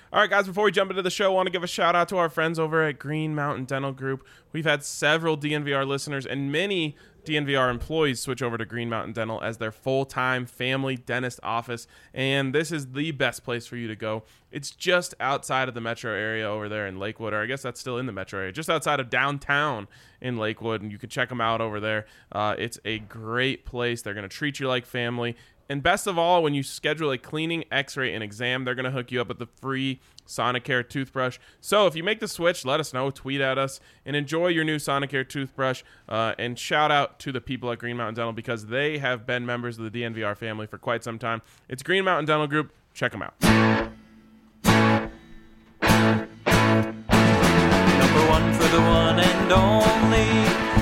All right, guys, before we jump into the show, I want to give a shout out to our friends over at Green Mountain Dental Group. We've had several DNVR listeners and many DNVR employees switch over to Green Mountain Dental as their full-time family dentist office, and this is the best place for you to go. It's just outside of the metro area over there in Lakewood, or I guess that's still in the metro area, just outside of downtown in Lakewood, and you can check them out over there. It's a great place. They're going to treat you like family. And best of all, when you schedule a cleaning, x-ray, and exam, they're going to hook you up with the free Sonicare toothbrush. So if you make the switch, let us know, tweet at us, and enjoy your new Sonicare toothbrush. And shout out to the people at Green Mountain Dental because they have been members of the DNVR family for quite some time. It's Green Mountain Dental Group. Check them out. Number one for the one and only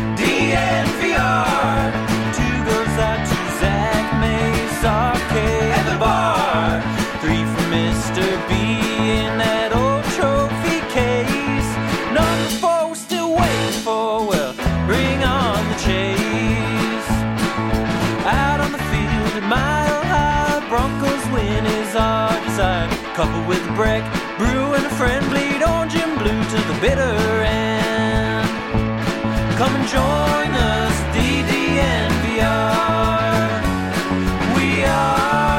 DNVR. Two goes out to Zach Mace, Arcade, and the bar. Three for Mr. B in that old trophy case. Number four, we're still waiting for, well, bring on the chase. Out on the field at Mile High, Broncos win is our desire. Couple with a break, brew and a friend, bleed orange and blue to the bitter end. Come and join us, DDNVR. We are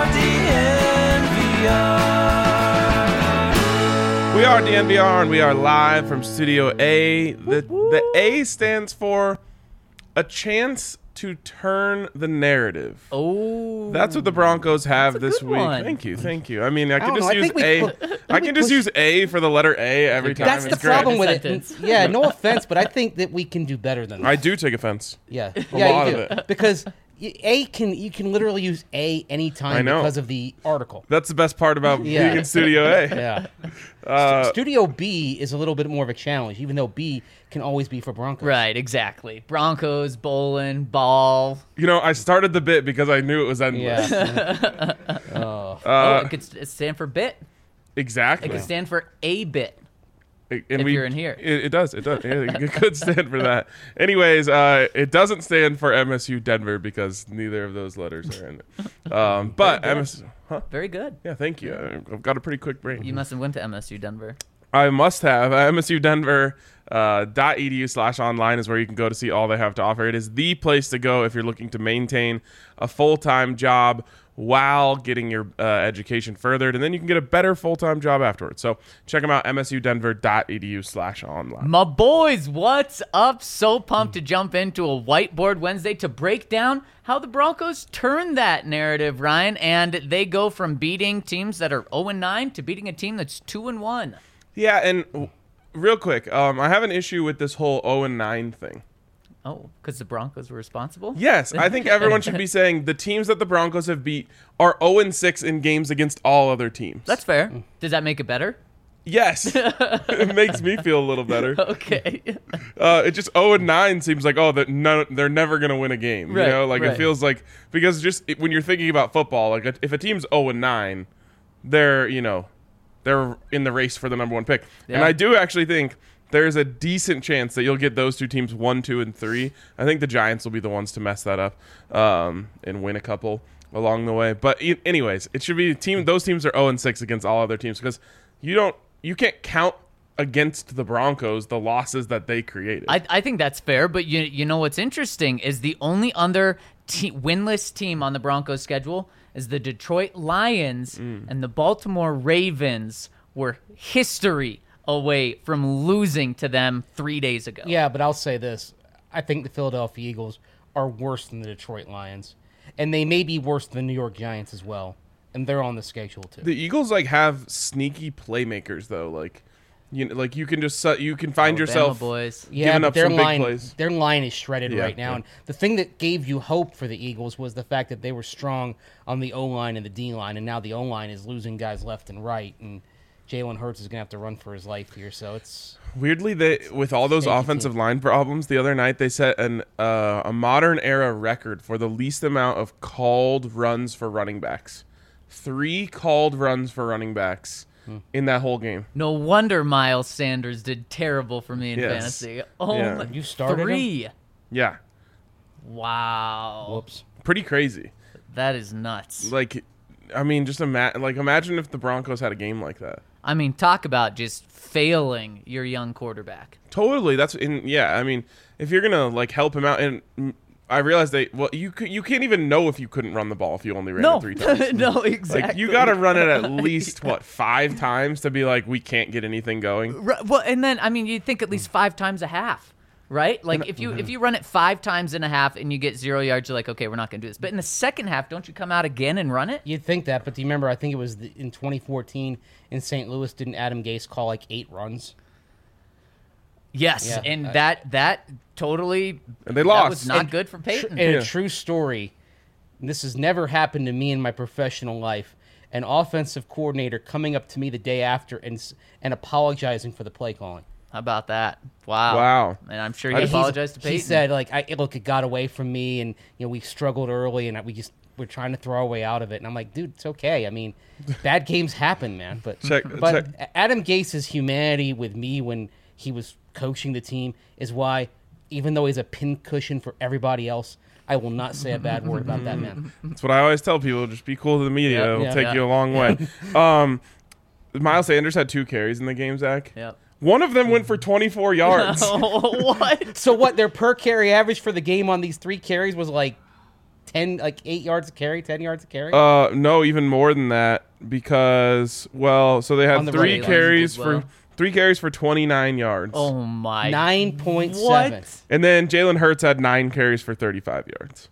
DNVR. We are DNVR, and we are live from Studio A. The A stands for a chance to turn the narrative. Oh, That's what the Broncos have that's a this good week. one. Thank you. I mean, I can don't just know. I use think we A. pu- I can just use A for the letter A every time. That's the It's great. problem with Sentence. it. Yeah, no offense, but I think that we can do better than that. I do take offense. Yeah, A yeah, lot you of do. it. Because you can literally use A anytime I know. because of the article. That's the best part about Yeah. being in Studio A. Yeah. Uh, Studio B is a little bit more of a challenge, even though B can always be for Broncos. right, exactly. Broncos, bowling, ball. You know, I started the bit because I knew it was endless. Yeah. Oh. It could stand for bit. Exactly. It could stand for a bit. And if you're in here. It does. Yeah, it could stand for that. Anyways, it doesn't stand for MSU Denver because neither of those letters are in it. But MSU, Very good. yeah, thank you. I've got a pretty quick brain. You must have went to MSU Denver. I must have. MSU Denver. .edu/online is where you can go to see all they have to offer. It is the place to go if you're looking to maintain a full-time job while getting your education furthered, and then you can get a better full-time job afterwards. So check them out, msudenver.edu/online. My boys, what's up? So pumped to jump into a Whiteboard Wednesday to break down how the Broncos turn that narrative, Ryan, and they go from beating teams that are 0-9 to beating a team that's 2-1. Yeah, and real quick, I have an issue with this whole 0-9 thing. Oh, because the Broncos were responsible? Yes, I think everyone should be saying the teams that the Broncos have beat are 0-6 in games against all other teams. That's fair. Does that make it better? Yes. It makes me feel a little better. Okay. It just 0-9 seems like, they're never going to win a game. Right, You know, like right. it feels like, because when you're thinking about football, like if a team's 0-9, they're in the race for the number one pick. Yeah. And I do actually think there's a decent chance that you'll get those two teams 1, 2, and 3. I think the Giants will be the ones to mess that up and win a couple along the way. But anyways, it should be those teams are 0-6 against all other teams because you can't count against the Broncos the losses that they created. I think that's fair, but you know what's interesting is the only other winless team on the Broncos schedule is the Detroit Lions, and the Baltimore Ravens were history away from losing to them 3 days ago. Yeah, but I'll say this. I think the Philadelphia Eagles are worse than the Detroit Lions. And they may be worse than the New York Giants as well. And they're on the schedule, too. The Eagles have sneaky playmakers though. You can just you can find Alabama yourself boys. Yeah, giving but up some big line, plays. their line is shredded Yeah, right now. yeah. And the thing that gave you hope for the Eagles was the fact that they were strong on the O-line and the D-line. And now the O-line is losing guys left and right. And Jalen Hurts is going to have to run for his life here. So it's... Weirdly, with all those Shaky offensive team. line problems, the other night they set a modern era record for the least amount of called runs for running backs. 3 called runs for running backs in that whole game. No wonder Miles Sanders did terrible for me in Yes. fantasy. Oh, Yeah. my, You started him? 3. Yeah, Wow. Whoops. pretty crazy. That is nuts. Like, I mean, just imagine if the Broncos had a game like that. I mean, talk about just failing your young quarterback. Totally. I mean, if you're gonna like help him out, and I realized you can't even know if you couldn't run the ball if you only ran it 3 times. No, exactly. Like you got to run it at least 5 times to be like we can't get anything going. Well, and then I mean, you'd think at least 5 times a half. Right? Like if you run it 5 times and a half and you get 0 yards, you're like, okay, we're not going to do this. But in the second half, don't you come out again and run it? You'd think that, but do you remember, I think it was in 2014 in St. Louis, didn't Adam Gase call like 8 runs? Yes, Yeah. and that totally And they that lost. was not good for Peyton. And a true story, and this has never happened to me in my professional life, an offensive coordinator coming up to me the day after and apologizing for the play calling. How about that? Wow. Wow. And I'm sure he apologized to Peyton. He said, like, look, it got away from me, and we struggled early, and we're trying to throw our way out of it. And I'm like, dude, it's okay. I mean, bad games happen, man. But Check. Adam Gase's humanity with me when he was coaching the team is why, even though he's a pincushion for everybody else, I will not say a bad word about that man. That's what I always tell people. Just be cool to the media. Yep. It'll Yeah. take you a long way. Miles Sanders had 2 carries in the game, Zach. Yep. One of them went for 24 yards. What? So what their per carry average for the game on these 3 carries was like 8 yards a carry, 10 yards a carry? No, even more than that because so they had On the 3 right. carries Did well. for 3 carries for 29 yards. Oh my. 9.7. What? And then Jalen Hurts had 9 carries for 35 yards.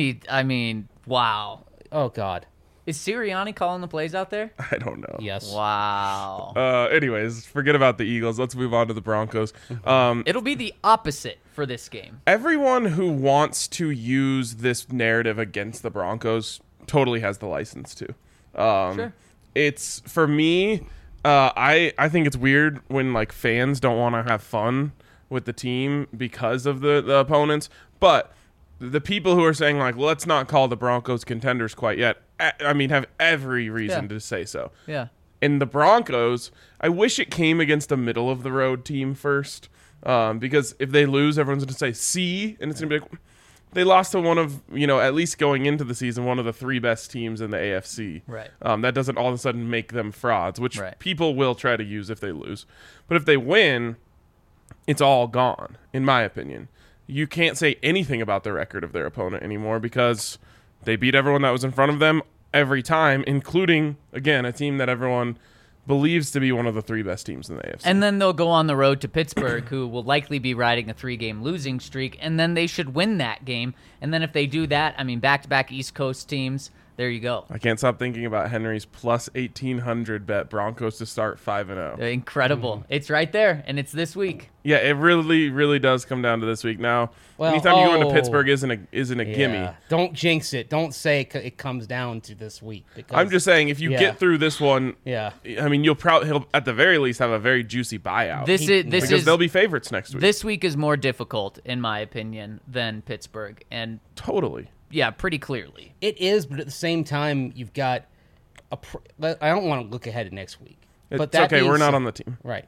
Wow. Oh, God. Is Sirianni calling the plays out there? I don't know. Yes. Wow. Anyways, forget about the Eagles. Let's move on to the Broncos. It'll be the opposite for this game. Everyone who wants to use this narrative against the Broncos totally has the license to. Sure. It's for me. I think it's weird when like fans don't want to have fun with the team because of the opponents, but the people who are saying like, let's not call the Broncos contenders quite yet. I mean, have every reason to say so. Yeah. And the Broncos, I wish it came against a middle of the road team first, because if they lose, everyone's going to say see, and it's going to be like they lost to one of at least going into the season one of the 3 best teams in the AFC. Right. That doesn't all of a sudden make them frauds, which Right. people will try to use if they lose. But if they win, it's all gone, in my opinion. You can't say anything about the record of their opponent anymore because they beat everyone that was in front of them every time, including, again, a team that everyone believes to be one of the 3 best teams in the AFC. And then they'll go on the road to Pittsburgh, who will likely be riding a 3-game losing streak, and then they should win that game. And then if they do that, I mean, back-to-back East Coast teams, there you go. I can't stop thinking about Henry's plus 1,800 bet Broncos to start 5-0. Incredible. It's right there, and it's this week. Yeah, it really, really does come down to this week. Now, Well, anytime you go into Pittsburgh isn't a gimme. Yeah. Don't jinx it. Don't say it comes down to this week. Because, I'm just saying, if you get through this one, Yeah. I mean, he'll at the very least have a very juicy buyout. This they'll be favorites next week. This week is more difficult, in my opinion, than Pittsburgh, and Totally. yeah, pretty clearly. It is, but at the same time, you've got I don't want to look ahead of next week. But It's okay. We're not on the team. Right.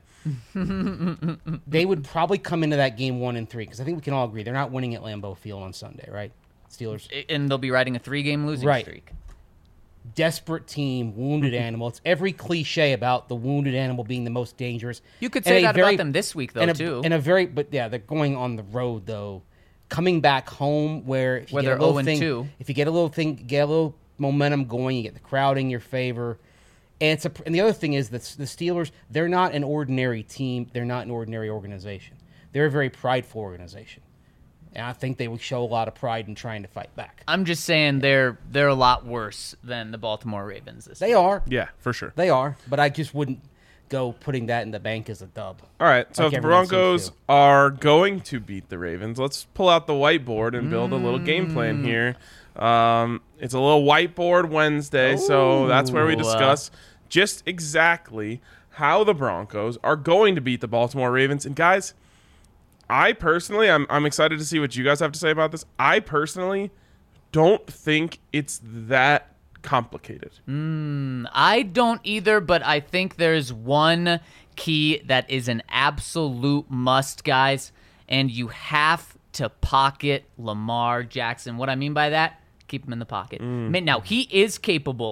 They would probably come into that game 1-3 because I think we can all agree they're not winning at Lambeau Field on Sunday, right? Steelers. And they'll be riding a 3-game losing Right. streak. Desperate team, wounded animal. It's every cliche about the wounded animal being the most dangerous. You could And say a that very- about them this week, though, too. But yeah, they're going on the road though. Coming back home where if you Where get they're a little 0-2. if you get a little momentum going, you get the crowd in your favor. And and the other thing is that the Steelers, they're not an ordinary team. They're not an ordinary organization. They're a very prideful organization. And I think they would show a lot of pride in trying to fight back. I'm just saying they're a lot worse than the Baltimore Ravens this They week. are. Yeah, for sure. They are. But I just wouldn't go putting that in the bank as a dub. All right, so Like if the everyone seems Broncos to. are going to beat the Ravens, let's pull out the whiteboard and build a little game plan here. It's a little whiteboard Wednesday, so that's where we Ooh. discuss just exactly how the Broncos are going to beat the Baltimore Ravens. And guys, I personally, I'm excited to see what you guys have to say about this. I personally don't think it's that complicated. I don't either, but I think there's one key that is an absolute must, guys, and you have to pocket Lamar Jackson. What I mean by that, keep him in the pocket. Now, he is capable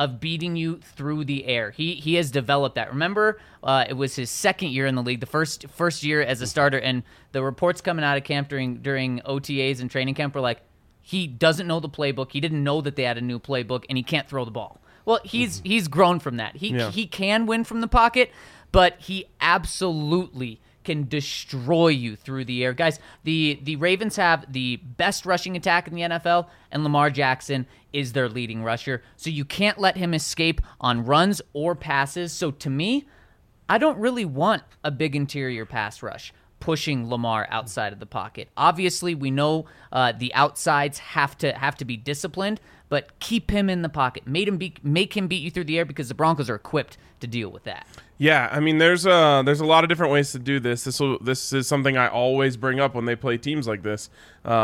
of beating you through the air. He has developed that. Remember, it was his second year in the league, the first year as a starter, and the reports coming out of camp during OTAs and training camp were like, he doesn't know the playbook. He didn't know that they had a new playbook, and he can't throw the ball. Well, he's grown from that. He can win from the pocket, but he absolutely can destroy you through the air. Guys, the Ravens have the best rushing attack in the NFL, and Lamar Jackson is their leading rusher. So you can't let him escape on runs or passes. So to me, I don't really want a big interior pass rush pushing Lamar outside of the pocket. Obviously, we know the outsides have to be disciplined, but keep him in the pocket. Make him beat you through the air because the Broncos are equipped to deal with that. Yeah, I mean, there's a lot of different ways to do this. This is something I always bring up when they play teams like this.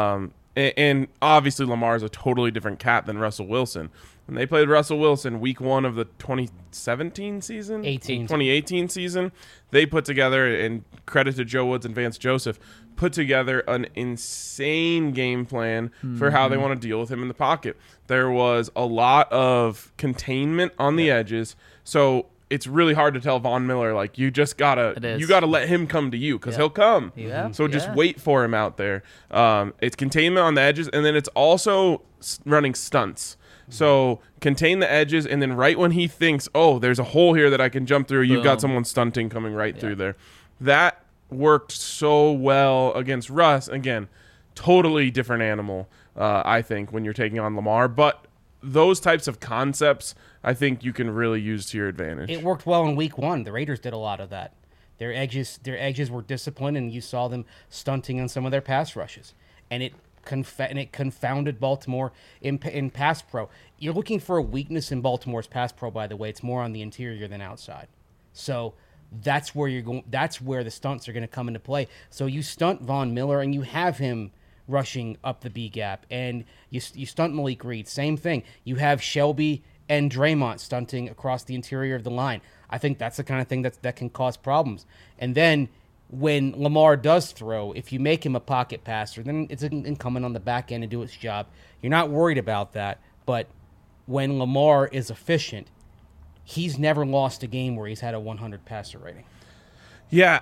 And obviously, Lamar is a totally different cat than Russell Wilson. When they played Russell Wilson week 1 of the 2017 season, 2018 season, they put together, and credit to Joe Woods and Vance Joseph, put together an insane game plan for how they want to deal with him in the pocket. There was a lot of containment on the edges, so it's really hard to tell Von Miller, like, you gotta let him come to you because he'll come. Yeah. So just wait for him out there. It's containment on the edges, and then it's also running stunts. So contain the edges, and then right when he thinks, oh, there's a hole here that I can jump through, you've got someone stunting coming right through there. That worked so well against Russ. Again, totally different animal, I think, when you're taking on Lamar. But those types of concepts, I think you can really use to your advantage. It worked well in week 1. The Raiders did a lot of that. Their edges were disciplined, and you saw them stunting on some of their pass rushes. And it confounded Baltimore in pass pro. You're looking for a weakness in Baltimore's pass pro, by the way. It's more on the interior than outside. So that's where you're going. That's where the stunts are going to come into play. So you stunt Von Miller, and you have him rushing up the B gap, and you stunt Malik Reed. Same thing. You have Shelby and Draymond stunting across the interior of the line. I think that's the kind of thing that can cause problems. And then when Lamar does throw, if you make him a pocket passer, then it's incumbent on the back end to do its job. You're not worried about that. But when Lamar is efficient, he's never lost a game where he's had a 100 passer rating. Yeah.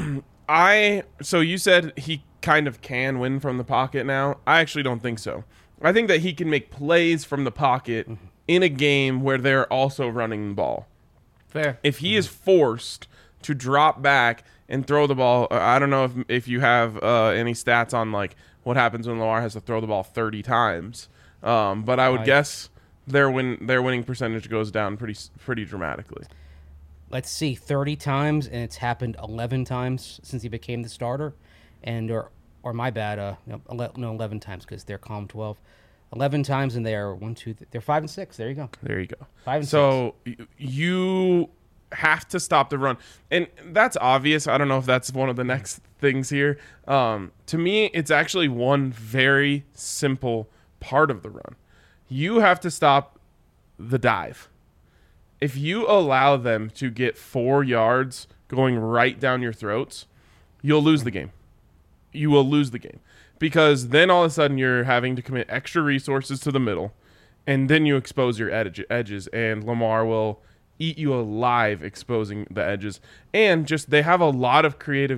So you said he kind of can win from the pocket now. I actually don't think so. I think that he can make plays from the pocket in a game where they're also running the ball. Fair. If he is forced to drop back and throw the ball, I don't know if you have any stats on like what happens when Lamar has to throw the ball 30 times, but I would guess their winning percentage goes down pretty dramatically. Let's see, 30 times, and it's happened 11 times since he became the starter, and or my bad, 11 times because they're calm 12. 11 times, and they are they're 5-6. There you go. 5-6. So you have to stop the run, and that's obvious. I don't know if that's one of the next things here. To me, it's actually one very simple part of the run. You have to stop the dive. If you allow them to get 4 yards going right down your throats, you'll lose the game. You will lose the game because then all of a sudden you're having to commit extra resources to the middle, and then you expose your edges, and Lamar will eat you alive exposing the edges. And just they have a lot of creative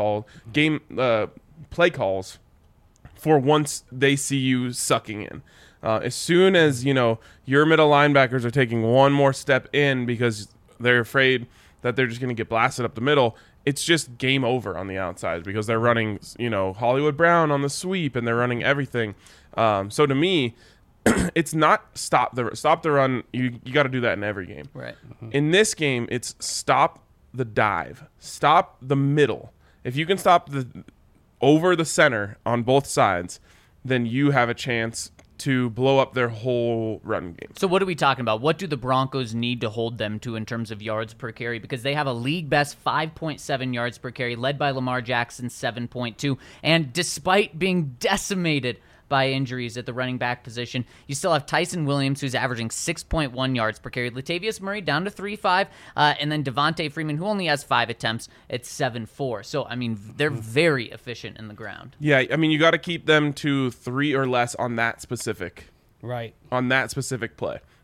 play calls for once they see you sucking in. As soon as your middle linebackers are taking one more step in because they're afraid that they're just going to get blasted up the middle, it's just game over on the outside because they're running, Hollywood Brown on the sweep, and they're running everything. So to me, it's not stop the run. You got to do that in every game. Right. In this game, it's stop the dive, stop the middle. If you can stop over the center on both sides, then you have a chance to blow up their whole run game. So what are we talking about? What do the Broncos need to hold them to in terms of yards per carry? Because they have a league best 5.7 yards per carry, led by Lamar Jackson, 7.2. And despite being decimated by injuries at the running back position, you still have Tyson Williams, who's averaging 6.1 yards per carry. Latavius Murray down to 3.5, and then Devontae Freeman, who only has 5 attempts at 7.4. So, I mean, they're very efficient in the ground. Yeah, I mean, you got to keep them to 3 or less on that specific play,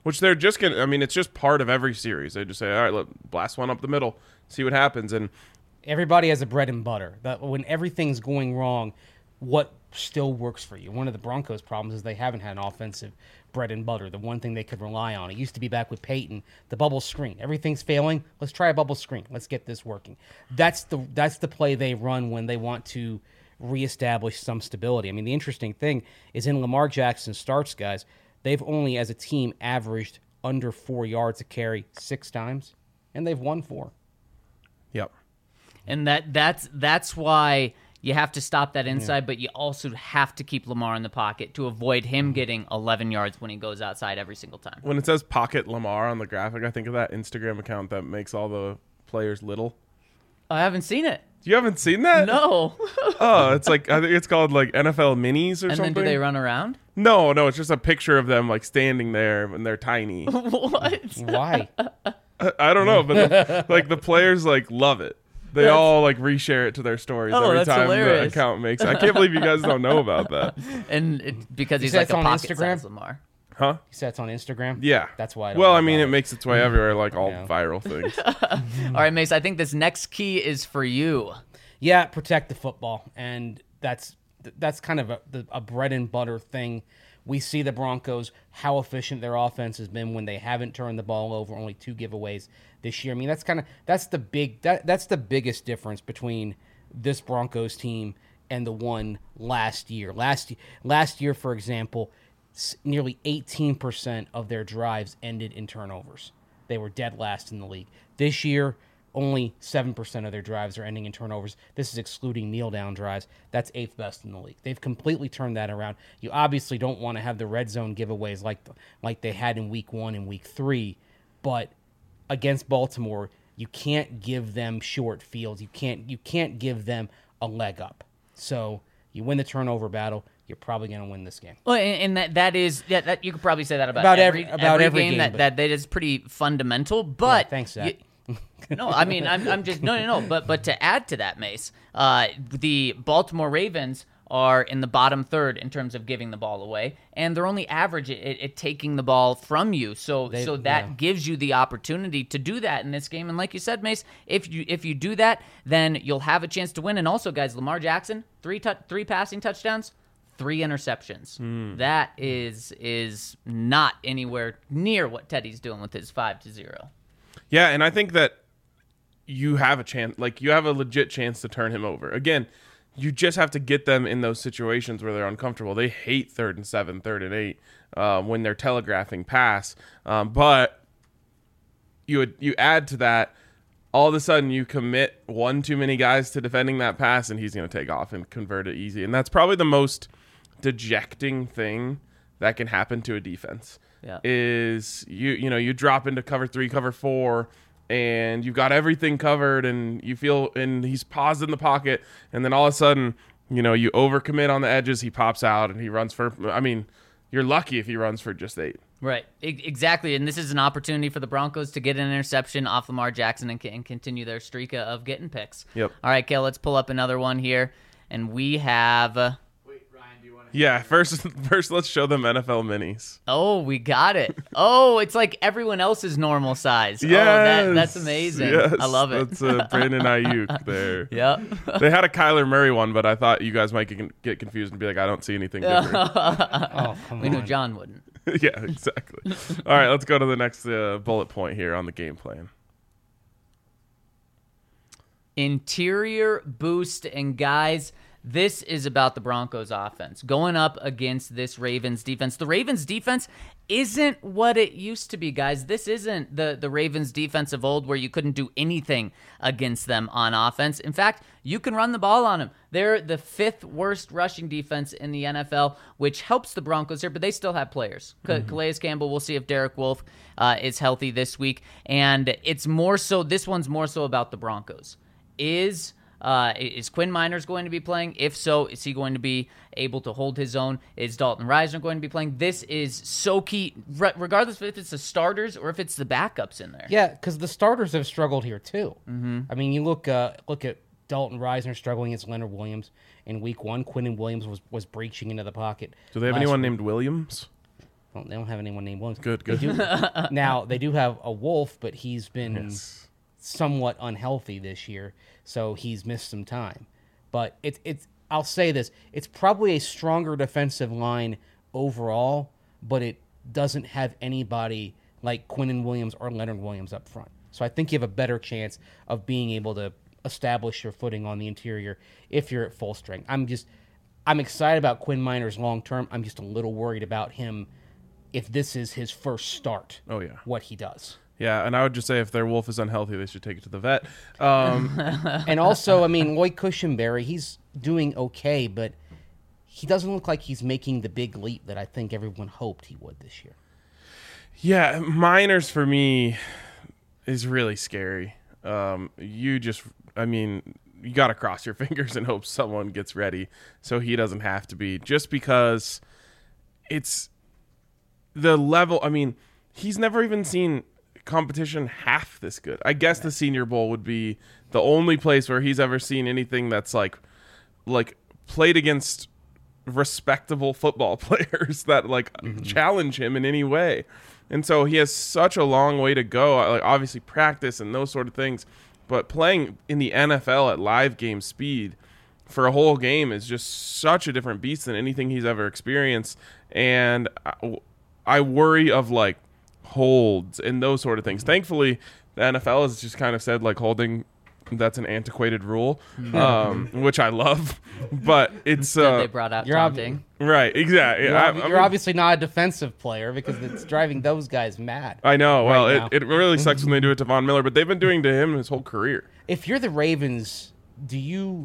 which they're just going to, I mean, it's just part of every series. They just say, all right, look, blast one up the middle, see what happens. And everybody has a bread and butter. That when everything's going wrong, what still works for you? One of the Broncos' problems is they haven't had an offensive bread and butter, the one thing they could rely on. It used to be back with Peyton, the bubble screen. Everything's failing. Let's try a bubble screen. Let's get this working. That's the play they run when they want to reestablish some stability. I mean, the interesting thing is in Lamar Jackson starts, guys, they've only, as a team, averaged under 4 yards a carry 6 times, and they've won 4. Yep. And that's why you have to stop that inside, but you also have to keep Lamar in the pocket to avoid him getting 11 yards when he goes outside every single time. When it says Pocket Lamar on the graphic, I think of that Instagram account that makes all the players little. I haven't seen it. You haven't seen that? No. Oh, it's like, I think it's called like NFL Minis or And something. then do they run around? No, it's just a picture of them like standing there and they're tiny. What? Why? I don't know, but like the players like love it. They all like reshare it to their stories every that's time hilarious. the account makes it. I can't believe you guys don't know about that. And because he's said like it's a on pocket Instagram? size Lamar. Huh? You said it's on Instagram? Yeah. That's why I don't Well, know I mean, about it makes its way everywhere, like all Yeah. viral things. All right, Mace, I think this next key is for you. Yeah, protect the football, and that's kind of a bread and butter thing. We see the Broncos, how efficient their offense has been when they haven't turned the ball over, only 2 giveaways this year. I mean, that's the biggest difference between this Broncos team and the one last year. Last year, for example, nearly 18% of their drives ended in turnovers. They were dead last in the league. This year, only 7% of their drives are ending in turnovers. This is excluding kneel-down drives. That's 8th best in the league. They've completely turned that around. You obviously don't want to have the red zone giveaways like they had in Week 1 and Week 3, but against Baltimore, you can't give them short fields. You can't give them a leg up. So you win the turnover battle, you're probably going to win this game. Well, and that is that you could probably say that about every game but- that is pretty fundamental. But Yeah, thanks, Zach. no, I mean I'm just no. But to add to that, Mace, the Baltimore Ravens are in the bottom third in terms of giving the ball away, and they're only average at taking the ball from you. So that gives you the opportunity to do that in this game. And like you said, Mace, if you do that, then you'll have a chance to win. And also, guys, Lamar Jackson, 3 passing touchdowns, 3 interceptions. That is not anywhere near what Teddy's doing with his 5-0. Yeah, and I think that you have a chance, like you have a legit chance to turn him over. Again, you just have to get them in those situations where they're uncomfortable. They hate 3rd and 7, 3rd and 8 when they're telegraphing pass. But you add to that, all of a sudden you commit one too many guys to defending that pass, and he's going to take off and convert it easy. And that's probably the most dejecting thing that can happen to a defense. Yeah. Is you drop into cover 3, cover 4, and you've got everything covered, and and he's paused in the pocket, and then all of a sudden, you overcommit on the edges, he pops out and he runs for, I mean, you're lucky if he runs for just 8. Right, exactly, and this is an opportunity for the Broncos to get an interception off Lamar Jackson and continue their streak of getting picks. Yep. All right, Kale, let's pull up another one here, and we have. Yeah, first let's show them NFL minis. Oh, we got it. Oh, it's like everyone else's normal size. Yes, Oh, that's amazing. Yes, I love it. That's Brandon Ayuk there. Yep. They had a Kyler Murray one, but I thought you guys might get confused and be like, I don't see anything different. Oh, come We on. knew John wouldn't. Yeah, exactly. All right, let's go to the next bullet point here on the game plan. Interior boost, and guys, this is about the Broncos offense going up against this Ravens defense. The Ravens defense isn't what it used to be, guys. This isn't the Ravens defense of old where you couldn't do anything against them on offense. In fact, you can run the ball on them. They're the 5th worst rushing defense in the NFL, which helps the Broncos here, but they still have players. Calais Campbell, we'll see if Derek Wolfe is healthy this week. And it's more so, this one's more so about the Broncos. Is Quinn Miners going to be playing? If so, is he going to be able to hold his own? Is Dalton Risner going to be playing? This is so key, regardless if it's the starters or if it's the backups in there. Yeah, because the starters have struggled here too. Mm-hmm. I mean, you look at Dalton Risner struggling against Leonard Williams in Week 1. Quinnen Williams was breaching into the pocket. Do they have last anyone week. named Williams? Well, they don't have anyone named Williams. Good. Now, they do have a Wolf, but he's been Yes. somewhat unhealthy this year, so he's missed some time. But it's I'll say this, it's probably a stronger defensive line overall, but it doesn't have anybody like Quinnen Williams or Leonard Williams up front. So I think you have a better chance of being able to establish your footing on the interior if you're at full strength. I'm excited about Quinn Miners long term. I'm just a little worried about him if this is his first start. Oh, yeah. What he does. Yeah, and I would just say if their Wolf is unhealthy, they should take it to the vet. And also, I mean, Lloyd Cushenberry, he's doing okay, but he doesn't look like he's making the big leap that I think everyone hoped he would this year. Yeah, Miners for me is really scary. You got to cross your fingers and hope someone gets ready so he doesn't have to be, just because it's the level. I mean, he's never even seen competition half this good. I guess the Senior Bowl would be the only place where he's ever seen anything that's like played against respectable football players that challenge him in any way. And so he has such a long way to go. Like, obviously practice and those sort of things, but playing in the NFL at live game speed for a whole game is just such a different beast than anything he's ever experienced. And I worry of holds and those sort of things. Thankfully, the NFL has just kind of said holding, that's an antiquated rule, which I love. But it's They brought out taunting. right, exactly. You're obviously not a defensive player because it's driving those guys mad. I know. Well, right now. it really sucks when they do it to Von Miller, but they've been doing to him his whole career. If you're the Ravens, do you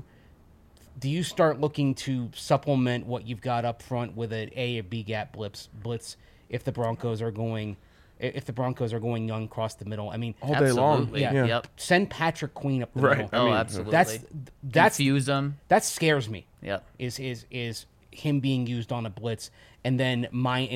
start looking to supplement what you've got up front with an A or B gap blitz if the Broncos are going young across the middle? I mean, All day long. Absolutely. Yeah. Yep. send Patrick Queen up the Right. middle. Oh, mean, absolutely. That's Confuse them. that scares me. Yep. Is him being used on a blitz, and then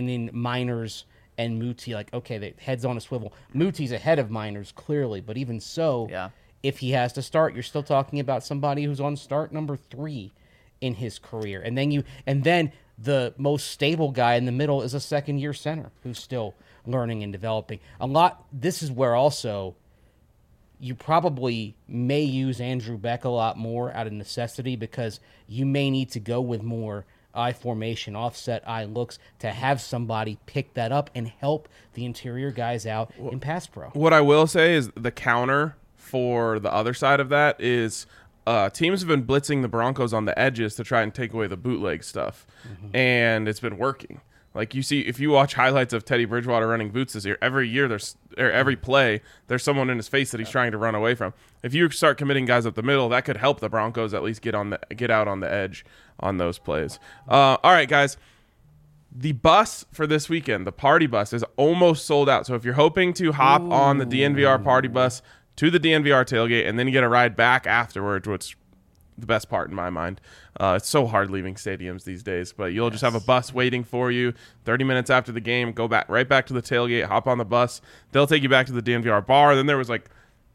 Miners and Muti, okay, the head's on a swivel. Muti's ahead of Miners clearly, but even so, Yeah. if he has to start, you're still talking about somebody who's on start number 3 in his career, and then the most stable guy in the middle is a second-year center who's still learning and developing. This is where also you probably may use Andrew Beck a lot more out of necessity, because you may need to go with more I formation, offset I looks to have somebody pick that up and help the interior guys out in pass pro. What I will say is the counter for the other side of that is teams have been blitzing the Broncos on the edges to try and take away the bootleg stuff, and it's been working. Like, you see, if you watch highlights of Teddy Bridgewater running boots this year, every play, there's someone in his face that he's trying to run away from. If you start committing guys up the middle, that could help the Broncos at least get out on the edge on those plays. All right, guys. The bus for this weekend, the party bus, is almost sold out. So if you're hoping to hop on the DNVR party bus to the DNVR tailgate and then you get a ride back afterwards, which the best part in my mind. It's so hard leaving stadiums these days, but you'll just have a bus waiting for you 30 minutes after the game. Go right back to the tailgate, hop on the bus. They'll take you back to the DNVR bar. Then it was like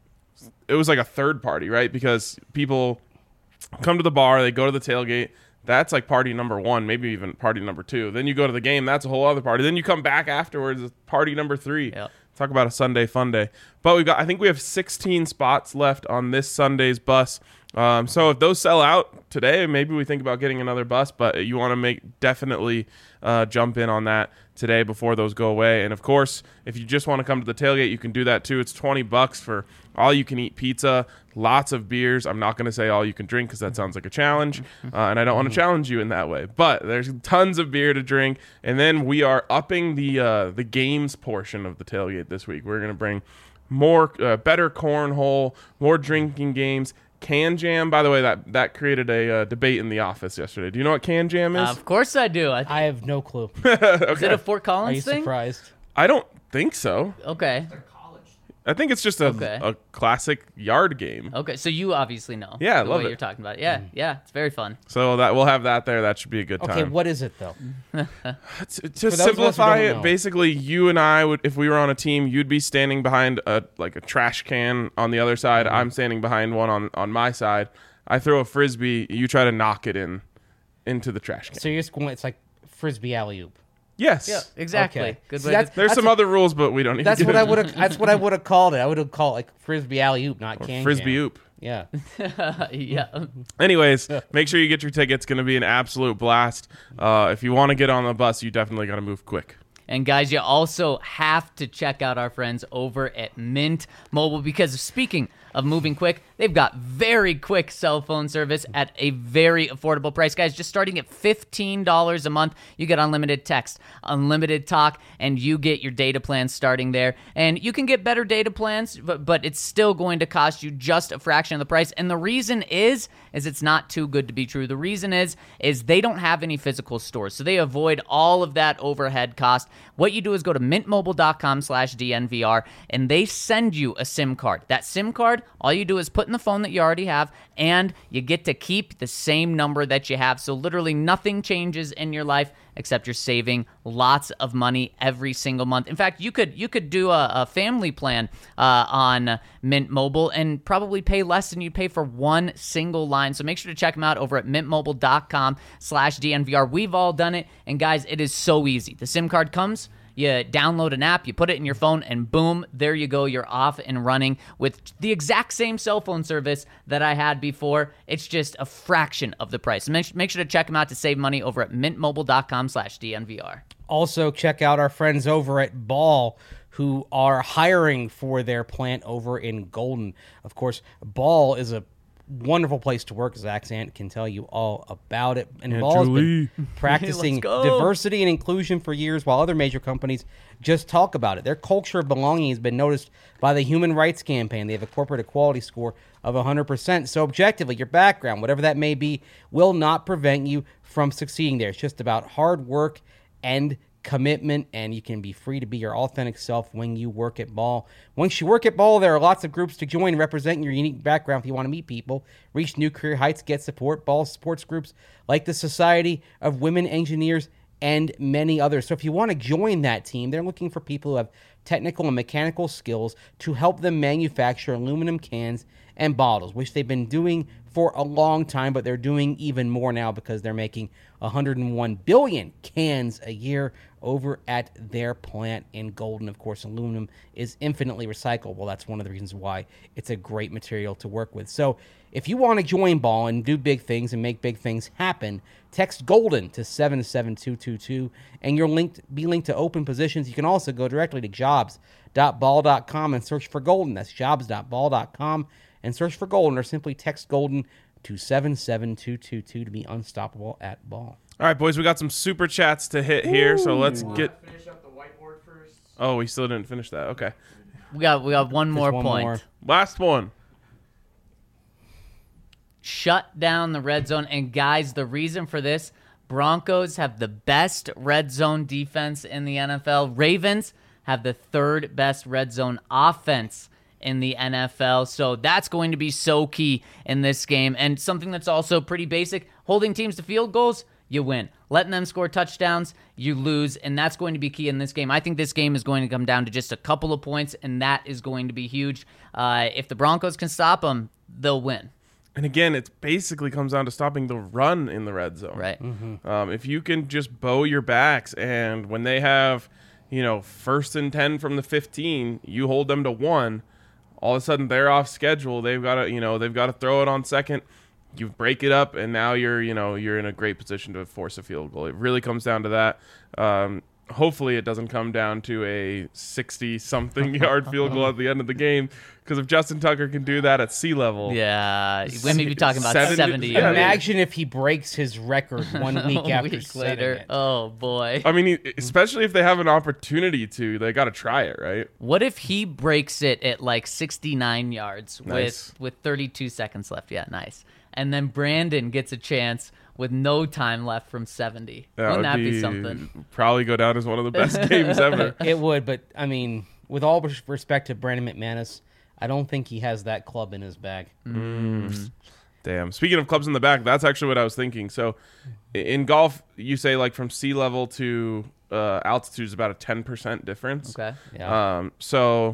a third party, right? Because people come to the bar, they go to the tailgate. That's like party number 1, maybe even party number 2. Then you go to the game. That's a whole other party. Then you come back afterwards. It's party number 3. Yep. Talk about a Sunday fun day. But I think we have 16 spots left on this Sunday's bus. So if those sell out today, maybe we think about getting another bus, but you want to definitely jump in on that today before those go away. And of course, if you just want to come to the tailgate, you can do that too. It's $20 for all you can eat pizza, lots of beers. I'm not going to say all you can drink because that sounds like a challenge, and I don't want to challenge you in that way. But there's tons of beer to drink, and then we are upping the games portion of the tailgate this week. We're going to bring more better cornhole, more drinking games. Can Jam, by the way, that created a debate in the office yesterday. Do you know what Can Jam is? Of course I do. I have no clue. Is it a Fort Are Collins you thing? surprised? I don't think so. Okay. I think it's just a classic yard game. Okay. So you obviously know. Yeah, I the love way it. you're talking about it. Yeah. Yeah. It's very fun. So we'll have that there. That should be a good Okay, time. what is it though? To those of us who simplify don't it, know. basically, you and I would, if we were on a team, you'd be standing behind a trash can on the other side. I'm standing behind one on my side. I throw a frisbee. You try to knock it into the trash can. So you're just going, it's like Frisbee alley-oop. Yes. Yeah, exactly. Okay. Good See, way that's- to, There's some other rules, but we don't need That's to what get I into would have. That's what I would have called it. I would have called it like frisbee alley oop, not can Frisbee jam. oop. Yeah. yeah. Anyways, make sure you get your tickets. It's going to be an absolute blast. If you want to get on the bus, you definitely got to move quick. And guys, you also have to check out our friends over at Mint Mobile, because speaking of moving quick, they've got very quick cell phone service at a very affordable price. Guys, just starting at $15 a month, you get unlimited text, unlimited talk, and you get your data plan starting there. And you can get better data plans, but it's still going to cost you just a fraction of the price. And the reason is it's not too good to be true. The reason is they don't have any physical stores, so they avoid all of that overhead cost. What you do is go to mintmobile.com/DNVR, and they send you a SIM card. That SIM card, all you do is put in the phone that you already have, and you get to keep the same number that you have. So literally nothing changes in your life except you're saving lots of money every single month. In fact, you could do a family plan on Mint Mobile and probably pay less than you'd pay for one single line. So make sure to check them out over at mintmobile.com/DNVR. We've all done it, and guys, it is so easy. The SIM card comes, you download an app, you put it in your phone, and boom, there you go. You're off and running with the exact same cell phone service that I had before. It's just a fraction of the price. Make sure to check them out to save money over at mintmobile.com/DNVR. Also, check out our friends over at Ball, who are hiring for their plant over in Golden. Of course, Ball is a wonderful place to work. Zach Sant can tell you all about it. And Ball has been practicing Let's go. diversity and inclusion for years, while other major companies just talk about it. Their culture of belonging has been noticed by the Human Rights Campaign. They have a corporate equality score of 100%. So objectively, your background, whatever that may be, will not prevent you from succeeding there. It's just about hard work and commitment, and you can be free to be your authentic self when you work at Ball. Once you work at Ball, there are lots of groups to join representing your unique background. If you want to meet people, reach new career heights, get support, Ball supports groups like the Society of Women Engineers and many others. So if you want to join that team, they're looking for people who have technical and mechanical skills to help them manufacture aluminum cans and bottles, which they've been doing for a long time, but they're doing even more now because they're making 101 billion cans a year over at their plant in Golden. Of course, aluminum is infinitely recyclable. That's one of the reasons why it's a great material to work with. So if you want to join Ball and do big things and make big things happen, text GOLDEN to 77222 and you'll be linked to open positions. You can also go directly to jobs.ball.com and search for Golden. That's jobs.ball.com and search for Golden, or simply text Golden to 77222 to be unstoppable at Ball. All right, boys, we got some super chats to hit here, so let's get. Finish up the whiteboard first. Oh, we still didn't finish that. Okay, We got one more one point. more. last one. Shut down the red zone. And guys, the reason for this, Broncos have the best red zone defense in the NFL. Ravens have the third best red zone offense in the NFL. So that's going to be so key in this game. And something that's also pretty basic, holding teams to field goals, you win. Letting them score touchdowns, you lose. And that's going to be key in this game. I think this game is going to come down to just a couple of points, and that is going to be huge. If the Broncos can stop them, they'll win. And again, it basically comes down to stopping the run in the red zone. Right. If you can just bow your backs, and when they have, 1st and 10 from the 15, you hold them to 1. All of a sudden, they're off schedule. They've got to throw it on second. You break it up, and now you're in a great position to force a field goal. It really comes down to that. Hopefully, it doesn't come down to a 60-something yard field goal at the end of the game. Because if Justin Tucker can do that at sea level, Yeah, we may be talking about 70 70 yeah, yards. Imagine if he breaks his record 1 week A after week setting later. it. Oh, boy. I mean, especially if they have an opportunity to, they got to try it, right? What if he breaks it at like 69 yards Nice. with 32 seconds left? Yeah, nice. And then Brandon gets a chance with no time left from 70. Wouldn't that be something? Probably go down as one of the best games ever. It would, but I mean, with all respect to Brandon McManus, I don't think he has that club in his bag. Damn. Speaking of clubs in the back, that's actually what I was thinking. So in golf, you say like from sea level to altitude is about a 10% difference. Okay. Yeah. So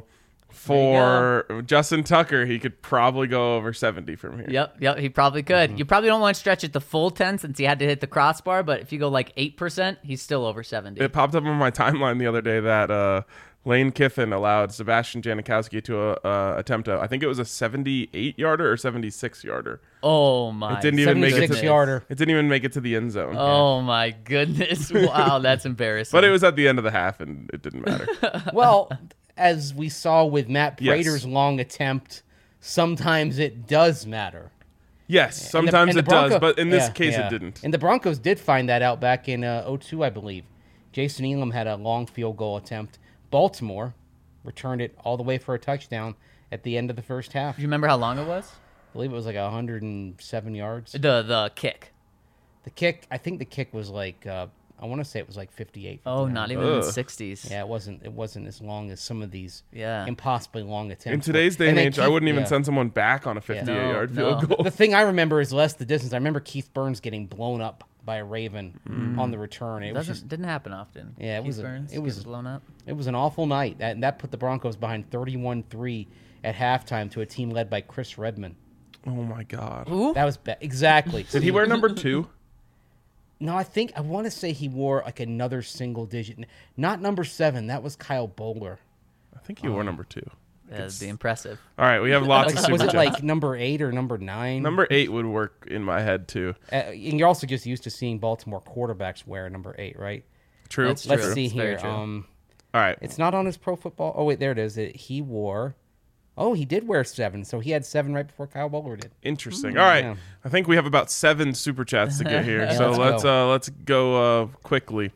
For Justin Tucker, he could probably go over 70 from here. Yep, he probably could. Mm-hmm. You probably don't want to stretch it the full 10 since he had to hit the crossbar, but if you go like 8%, he's still over 70. It popped up on my timeline the other day that Lane Kiffin allowed Sebastian Janikowski to attempt I think it was a 78-yarder or 76-yarder. Oh my! It didn't even make it to 76-yarder. It didn't even make it to the end zone. Oh my goodness! Wow, that's embarrassing. But it was at the end of the half, and it didn't matter. Well, as we saw with Matt Yes. Prater's long attempt, sometimes it does matter. Yes, And sometimes the it does, Bronco- but in this yeah, case, yeah. it didn't. And the Broncos did find that out back in 2002, I believe. Jason Elam had a long field goal attempt. Baltimore returned it all the way for a touchdown at the end of the first half. Do you remember how long it was? I believe it was like 107 yards. The kick. The kick, I think the kick was like, I want to say it was like 58. Oh, 59. not even in the 60s. Yeah, it wasn't as long as some of these Yeah. impossibly long attempts. In today's day and then age, I Keith- wouldn't even yeah. send someone back on a 58-yard field no. goal. The thing I remember is less the distance. I remember Keith Burns getting blown up by a Raven on the return. It was Didn't happen often. Yeah, it Keith was a- Burns it was- gets blown up. it was an awful night, and that put the Broncos behind 31-3 at halftime to a team led by Chris Redman. Oh, my God. Who? That was exactly. Did he wear number 2? No, I want to say he wore like another single digit, not number 7. That was Kyle Bowler. I think he wore number 2. That'd be impressive. All right, we have lots of Like, super was it chats. like number 8 or number 9? Number 8 would work in my head, too. And you're also just used to seeing Baltimore quarterbacks wear number 8, right? True. That's Let's True. see It's very here. true. All right. It's not on his pro football. Oh wait, there it is. He wore. Oh, he did wear 7. So he had 7 right before Kyle Bowler did. Interesting. All right. yeah. I think we have about 7 super chats to get here. Yeah, so let's let's go quickly.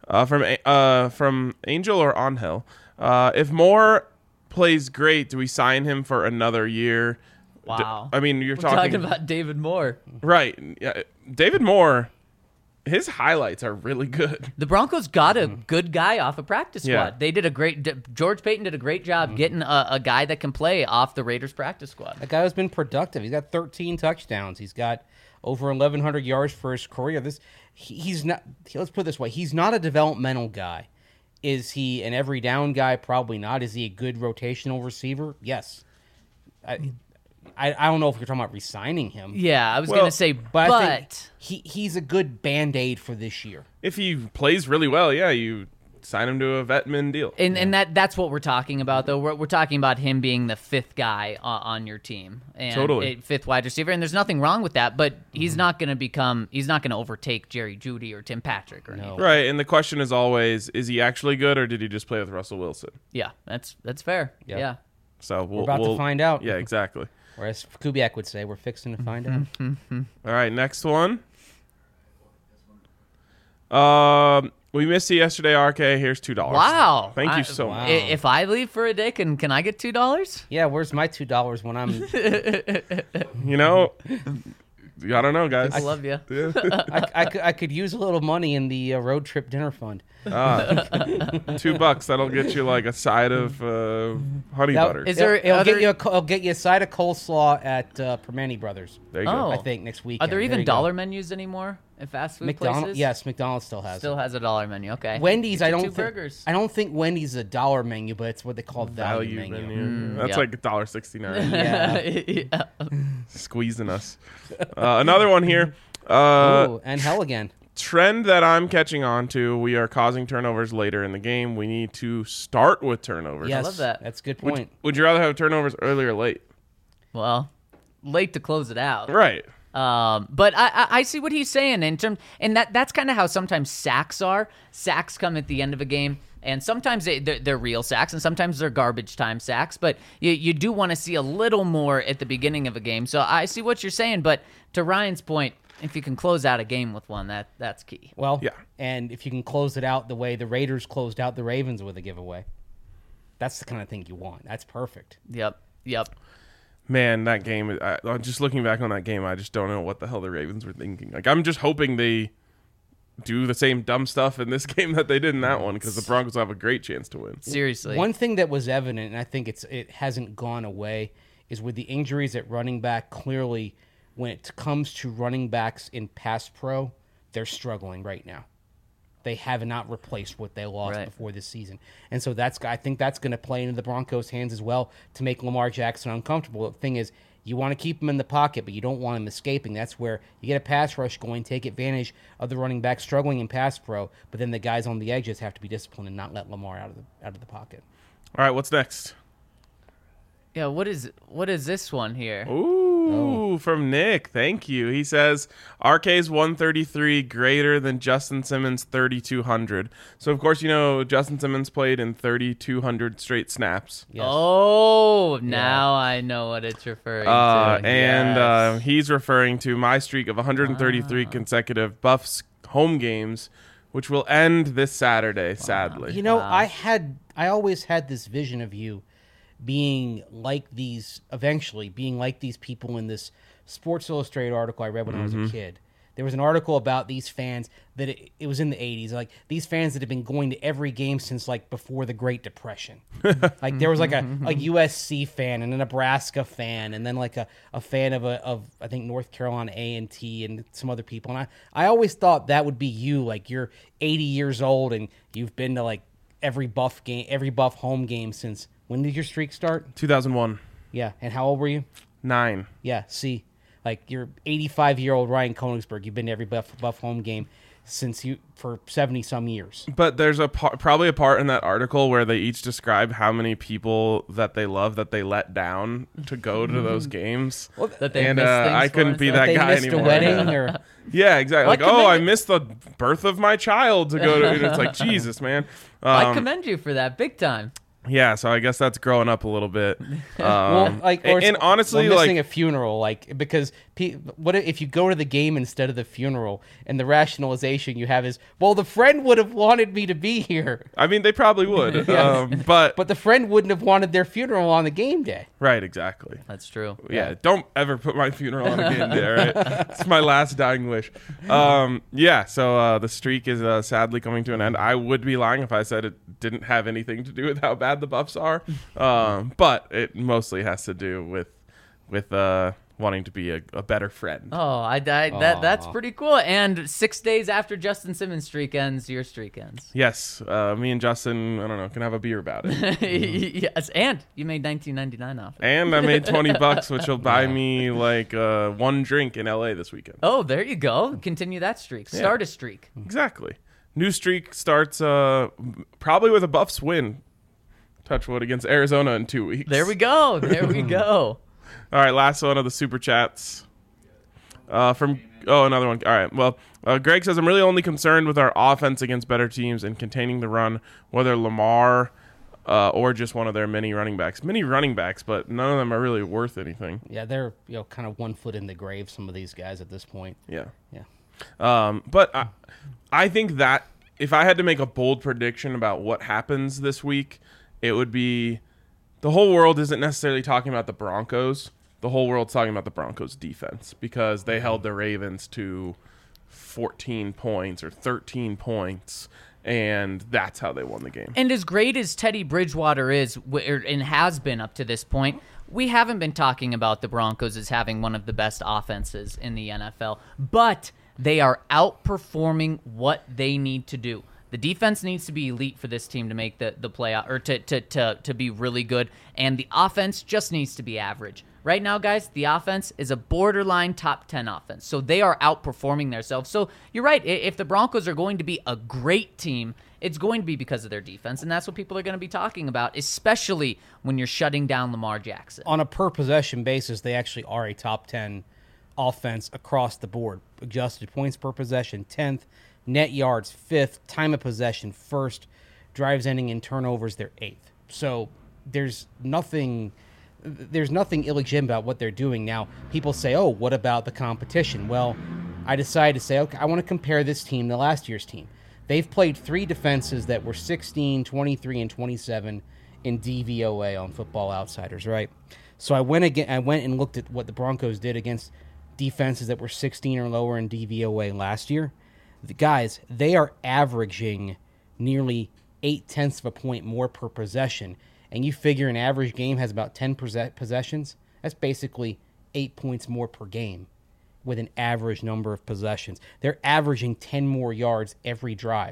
From Angel or Angel. If Moore plays great, do we sign him for another year? Wow. I mean, you're We're talking talking about David Moore. right. Yeah, David Moore, his highlights are really good. The Broncos got a good guy off a practice squad. Yeah. They did a great. George Payton did a great job getting a guy that can play off the Raiders practice squad. That guy has been productive. He's got 13 touchdowns. He's got over 1,100 yards for his career. He's not. Let's put it this way: he's not a developmental guy. Is he an every down guy? Probably not. Is he a good rotational receiver? Yes. I don't know if you're talking about re-signing him. Yeah, I was Well, gonna say, But I think but he's a good Band-Aid for this year. If he plays really well, yeah, you sign him to a vetman deal. and that's what we're talking about though. We're talking about him being the 5th guy on your team and Totally. 5th wide receiver, and there's nothing wrong with that. But he's not gonna overtake Jerry Jeudy or Tim Patrick or anything. Right, and the question is always, is he actually good or did he just play with Russell Wilson? Yeah, that's fair. Yep. Yeah. So we're about to find out. Yeah, exactly. Or as Kubiak would say, we're fixing to find out. All right, next one. We missed you yesterday, RK. Here's $2. Wow. Thank you so much. If I leave for a day, can I get $2? Yeah, where's my $2 when I'm? You know, I don't know, guys. I love you. I could use a little money in the road trip dinner fund. $2. That'll get you like a side of honey butter. Is there It'll other- I'll get you a side of coleslaw at Permane Brothers. There you Oh. go. I think next week. Are there even dollar menus anymore at fast food McDonald's? places? Yes, McDonald's still has. Still it. has a dollar menu. Okay. Wendy's, Get I you don't 2 think. burgers. I don't think Wendy's is a dollar menu, but it's what they call value menu. That's yeah. like $1.69. Yeah. Squeezing us. Another one here. Ooh, and hell again. Trend that I'm catching on to, we are causing turnovers later in the game. We need to start with turnovers. Yes, love that. That's a good point. Would you rather have turnovers early or late? Well, late to close it out. Right. But I see what he's saying in terms, and that's kind of how sometimes sacks are. Sacks come at the end of a game, and sometimes they're real sacks, and sometimes they're garbage time sacks. But you do want to see a little more at the beginning of a game. So I see what you're saying, but to Ryan's point, if you can close out a game with one, that's key. Well, Yeah. and if you can close it out the way the Raiders closed out the Ravens with a giveaway, that's the kind of thing you want. That's perfect. Yep. Man, that game, just looking back on that game, I just don't know what the hell the Ravens were thinking. Like, I'm just hoping they do the same dumb stuff in this game that they did in that one, because the Broncos will have a great chance to win. Seriously. One thing that was evident, and I think it hasn't gone away, is with the injuries at running back. Clearly, when it comes to running backs in pass pro, they're struggling right now. they have not replaced what they lost Right. before this season. And so I think that's going to play into the Broncos' hands as well to make Lamar Jackson uncomfortable. The thing is, you want to keep him in the pocket, but you don't want him escaping. That's where you get a pass rush going, take advantage of the running back struggling in pass pro, but then the guys on the edges have to be disciplined and not let Lamar out of the pocket. All right, what's next? Yeah, what is this one here? Ooh, from Nick. Thank you. He says RK's 133 greater than Justin Simmons' 3,200. So, of course, Justin Simmons played in 3,200 straight snaps. Yes. Oh, now I know what it's referring to. And Yes. he's referring to my streak of 133 consecutive Buffs home games, which will end this Saturday, sadly. I always had this vision of you being like these people in this Sports Illustrated article I read when I was a kid. There was an article about these fans that it was in the 80s, like these fans that had been going to every game since like before the Great Depression. Like there was like a USC fan and a Nebraska fan and then like a fan of I think North Carolina A&T and some other people. And I always thought that would be you, like you're 80 years old and you've been to like every Buff home game since. When did your streak start? 2001. Yeah, and how old were you? 9. Yeah, see, like you're 85-year-old Ryan Koenigsberg. You've been to every Buff home game for 70 some years. But there's probably a part in that article where they each describe how many people that they love that they let down to go to those games. That they and missed things I for couldn't and be stuff. that They guy missed anymore. a wedding or Yeah, exactly. Well, Like, I I commend missed the birth of my child to go to. It's like, Jesus, man. I commend you for that big time. Yeah, so I guess that's growing up a little bit. and honestly, missing a funeral, like because what if you go to the game instead of the funeral, and the rationalization you have is, well, the friend would have wanted me to be here, I mean, they probably would, but but the friend wouldn't have wanted their funeral on the game day. right, exactly. That's true. Yeah, don't ever put my funeral on a game day, all right? It's my last dying wish. So the streak is sadly coming to an end. I would be lying if I said it didn't have anything to do with how bad the Buffs are, but it mostly has to do with wanting to be a better friend. Oh, that's pretty cool. And 6 days after Justin Simmons' streak ends, your streak ends. Yes, me and Justin, I don't know, can have a beer about it. Yes, and you made $19.99 off it. And I made $20, which will buy me like one drink in LA this weekend. Oh, there you go. Continue that streak. Start a streak. Exactly. New streak starts probably with a Buffs win. Touch wood, against Arizona in 2 weeks. There we go. There we go. All right, last one of the super chats. Another one. All right. Well, Greg says, I'm really only concerned with our offense against better teams and containing the run, whether Lamar or just one of their many running backs. Many running backs, but none of them are really worth anything. Yeah, they're kind of 1 foot in the grave, some of these guys at this point. Yeah. Yeah. But I think that if I had to make a bold prediction about what happens this week, it would be the whole world isn't necessarily talking about the Broncos. The whole world's talking about the Broncos defense because they held the Ravens to 14 points or 13 points, and that's how they won the game. And as great as Teddy Bridgewater is and has been up to this point, we haven't been talking about the Broncos as having one of the best offenses in the NFL, but they are outperforming what they need to do. The defense needs to be elite for this team to make the playoff, or to be really good, and the offense just needs to be average. Right now, guys, the offense is a borderline top 10 offense, so they are outperforming themselves. So you're right. If the Broncos are going to be a great team, it's going to be because of their defense, and that's what people are going to be talking about, especially when you're shutting down Lamar Jackson. On a per-possession basis, they actually are a top 10 offense across the board. Adjusted points per possession, 10th. Net yards, 5th. Time of possession, 1st. Drives ending in turnovers, they're 8th. So there's nothing illegitimate about what they're doing. Now, people say, oh, what about the competition? Well, I decided to say, okay, I want to compare this team to last year's team. They've played 3 defenses that were 16, 23, and 27 in DVOA on Football Outsiders, right? So I went and looked at what the Broncos did against defenses that were 16 or lower in DVOA last year. The guys, they are averaging nearly 0.8 of a point more per possession. And you figure an average game has about 10 possessions. That's basically 8 points more per game with an average number of possessions. They're averaging 10 more yards every drive.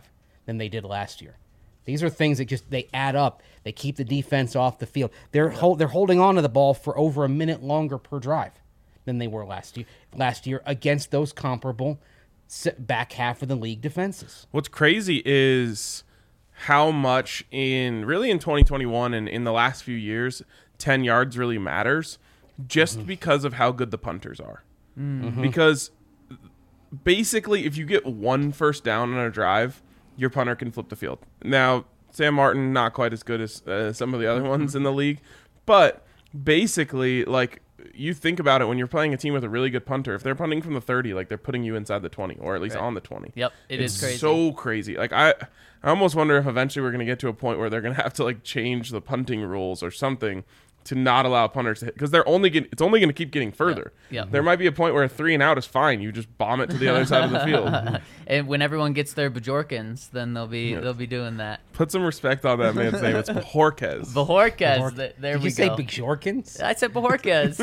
than they did last year. These are things that they add up. They keep the defense off the field. They're holding on to the ball for over a minute longer per drive than they were last year against those comparable back half of the league defenses. What's crazy is how much in 2021 and in the last few years, 10 yards really matters just because of how good the punters are. Because basically, if you get one first down on a drive, your punter can flip the field. Now, Sam Martin, not quite as good as some of the other ones in the league, but basically, like, you think about it when you're playing a team with a really good punter, if they're punting from the 30, like, they're putting you inside the 20 or at least on the 20. Yep, it's crazy. So crazy. Like, I almost wonder if eventually we're going to get to a point where they're going to have to, like, change the punting rules or something to not allow punters to hit, because it's only going to keep getting further. Yep. There might be a point where a 3-and-out is fine. You just bomb it to the other side of the field. And when everyone gets their Bajorkins, then they'll be doing that. Put some respect on that man's name. It's Bajorquez. Bajorquez. There Did we you say go. Bajorkins? I said Bajorquez.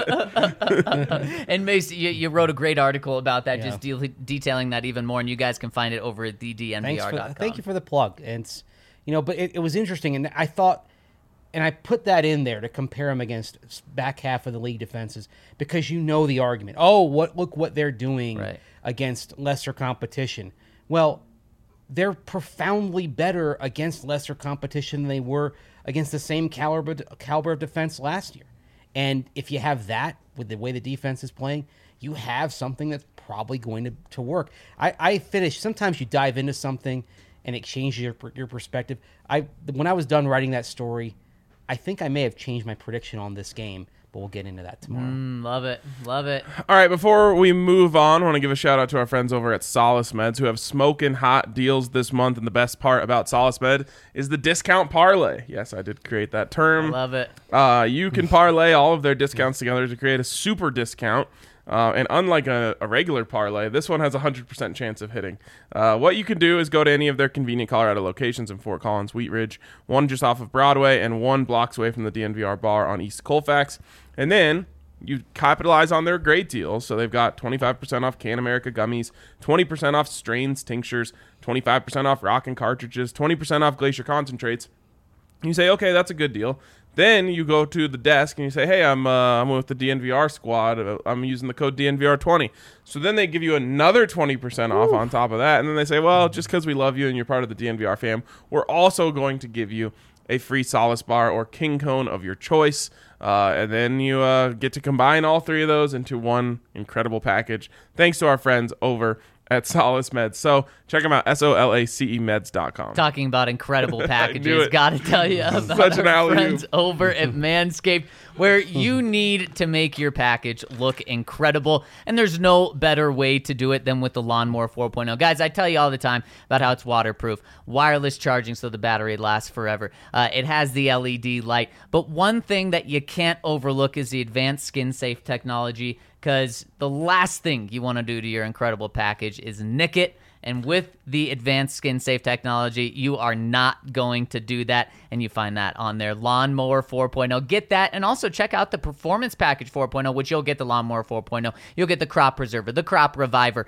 And Mace, you wrote a great article about that, just detailing that even more, and you guys can find it over at thednvr.com. Thank you for the plug. And it's, but it was interesting, and I thought, and I put that in there to compare them against back half of the league defenses because the argument. Oh, look what they're doing against lesser competition. Well, they're profoundly better against lesser competition than they were against the same caliber of defense last year. And if you have that with the way the defense is playing, you have something that's probably going to work. I finished. Sometimes you dive into something and it changes your perspective. When I was done writing that story, I think I may have changed my prediction on this game, but we'll get into that tomorrow. Love it. Love it. All right, before we move on, I want to give a shout out to our friends over at Solace Meds who have smoking hot deals this month. And the best part about Solace Med is the discount parlay. Yes, I did create that term. Love it. You can parlay all of their discounts together to create a super discount. And unlike a regular parlay, this one has a 100% chance of hitting. What you can do is go to any of their convenient Colorado locations in Fort Collins, Wheat Ridge, one just off of Broadway, and 1 block away from the DNVR bar on East Colfax. And then you capitalize on their great deals. So they've got 25% off Can America gummies, 20% off strains, tinctures, 25% off Rockin' cartridges, 20% off Glacier concentrates. You say, okay, that's a good deal. Then you go to the desk and you say, hey, I'm with the DNVR squad. I'm using the code DNVR20. So then they give you another 20% off on top of that. And then they say, well, just because we love you and you're part of the DNVR fam, we're also going to give you a free Solace bar or King Cone of your choice. And then you get to combine all 3 of those into one incredible package. Thanks to our friends over at Solace Meds. So check them out, SOLACEmeds.com. Talking about incredible packages, got to tell you about Such an our alley-oop. friends over at Manscaped, where you need to make your package look incredible, and there's no better way to do it than with the Lawnmower 4.0. Guys, I tell you all the time about how it's waterproof, wireless charging so the battery lasts forever. It has the LED light, but one thing that you can't overlook is the advanced skin-safe technology, because the last thing you want to do to your incredible package is nick it. And with the advanced skin-safe technology, you are not going to do that, and you find that on their Lawnmower 4.0. Get that, and also check out the Performance Package 4.0, which you'll get the Lawnmower 4.0. You'll get the Crop Preserver, the Crop Reviver,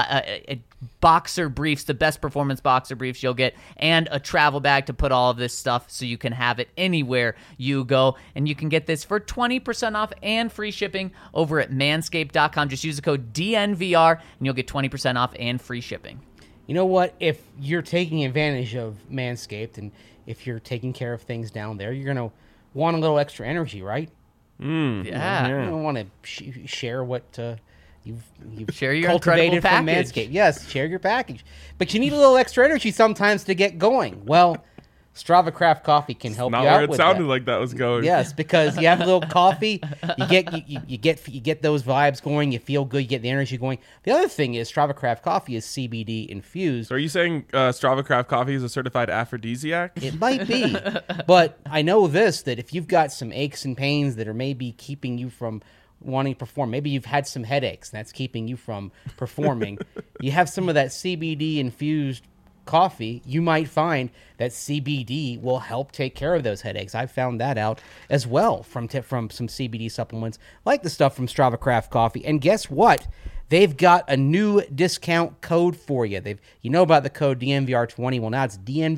boxer briefs, the best performance boxer briefs you'll get, and a travel bag to put all of this stuff so you can have it anywhere you go. And you can get this for 20% off and free shipping over at manscaped.com. Just use the code DNVR, and you'll get 20% off and free shipping. You know what? If you're taking advantage of Manscaped and if you're taking care of things down there, you're going to want a little extra energy, right? Yeah. You don't want to share what you've Share your cultivated incredible from package. Manscaped. Yes, share your package. But you need a little extra energy sometimes to get going. Well, Strava Craft Coffee can help you Not out where it with sounded that. like that was going. Yes, because you have a little coffee, you get those vibes going, you feel good, you get the energy going. The other thing is Strava Craft Coffee is CBD infused. So are you saying Strava Craft Coffee is a certified aphrodisiac? It might be, but I know this, that if you've got some aches and pains that are maybe keeping you from wanting to perform, maybe you've had some headaches and that's keeping you from performing, you have some of that CBD infused coffee, you might find that CBD will help take care of those headaches. I've found that out as well from some CBD supplements, like the stuff from Strava Craft Coffee. And guess what? they've got a new discount code for you. You know about the code DNVR20. Well, now it's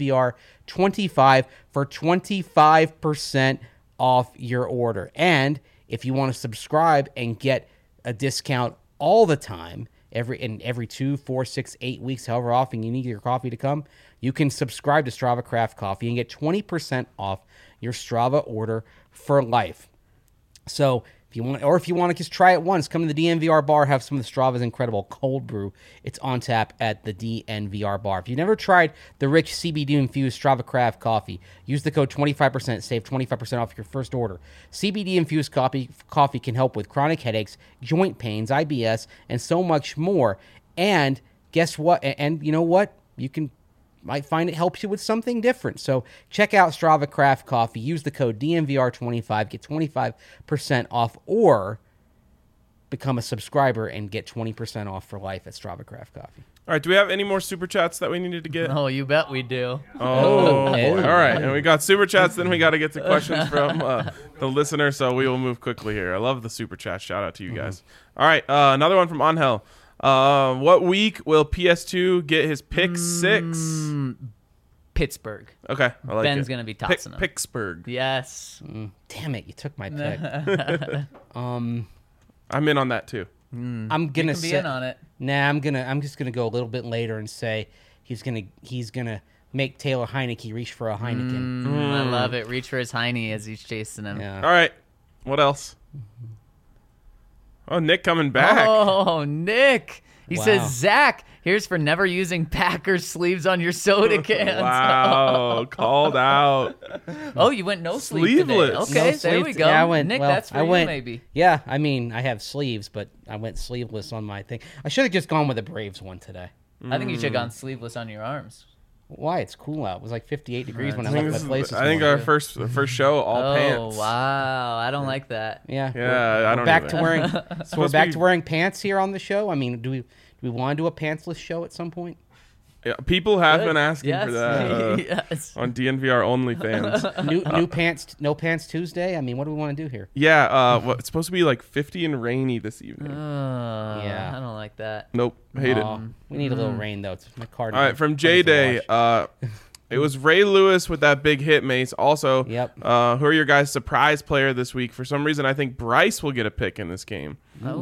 DNVR25 for 25% off your order. And if you want to subscribe and get a discount all the time, every 2, 4, 6, 8 weeks, however often you need your coffee to come, you can subscribe to Strava Craft Coffee and get 20% off your Strava order for life. So if you want to just try it once, come to the DNVR bar, have some of the Strava's incredible cold brew. It's on tap at the DNVR bar. If you've never tried the rich CBD-infused Strava Craft coffee, use the code 25%, save 25% off your first order. CBD-infused coffee can help with chronic headaches, joint pains, IBS, and so much more. And guess what? And you know what? You might find it helps you with something different. So check out Strava Craft Coffee. Use the code DNVR25. Get 25% off, or become a subscriber and get 20% off for life at Strava Craft Coffee. All right, do we have any more super chats that we needed to get? Oh, you bet we do. Oh, boy. All right. And we got super chats, then we got to get to questions from the listener, so we will move quickly here. I love the super chat. Shout out to you guys. All right, another one from Angel. What week will PS2 get his pick 6? Pittsburgh. Okay, I like Ben's it. going to be tossing them. Pittsburgh. Yes. Damn it, you took my pick. I'm in on that too. I'm You gonna can be say, in on it. Nah, I'm just gonna go a little bit later and say he's gonna make Taylor Heineke reach for a Heineken. I love it. Reach for his Heine as he's chasing him. Yeah. All right, what else? Oh, Nick coming back. Oh, Nick. He Wow. says, Zach, here's for never using Packers sleeves on your soda cans. Wow, called out. Oh, you went no sleeve Sleeveless. today. Okay, No there sleeves. we go. Yeah, I went, Nick, well, that's for I you went, maybe. Yeah, I mean, I have sleeves, but I went sleeveless on my thing. I should have just gone with the Braves one today. I think you should have gone sleeveless on your arms. Why? It's cool out. It was like 58 degrees when I I think, left my place. I think our first show, all pants. Oh, wow. I don't like that. Yeah. Yeah, I don't back either. to wearing. So we're Supposed back to to be- wearing pants here on the show. I mean, do we want to do a pantsless show at some point? Yeah, people have Good. been asking Yes. for that Yes. on DNVR OnlyFans. New pants, no pants Tuesday. I mean, what do we want to do here? Yeah, it's supposed to be like 50 and rainy this evening. Yeah. I don't like that. Nope, hate it. Aw, we need a little rain though. It's my card. All right, from J Day, it was Ray Lewis with that big hit, Mace. Also, Yep. who are your guys' surprise player this week? For some reason, I think Bryce will get a pick in this game.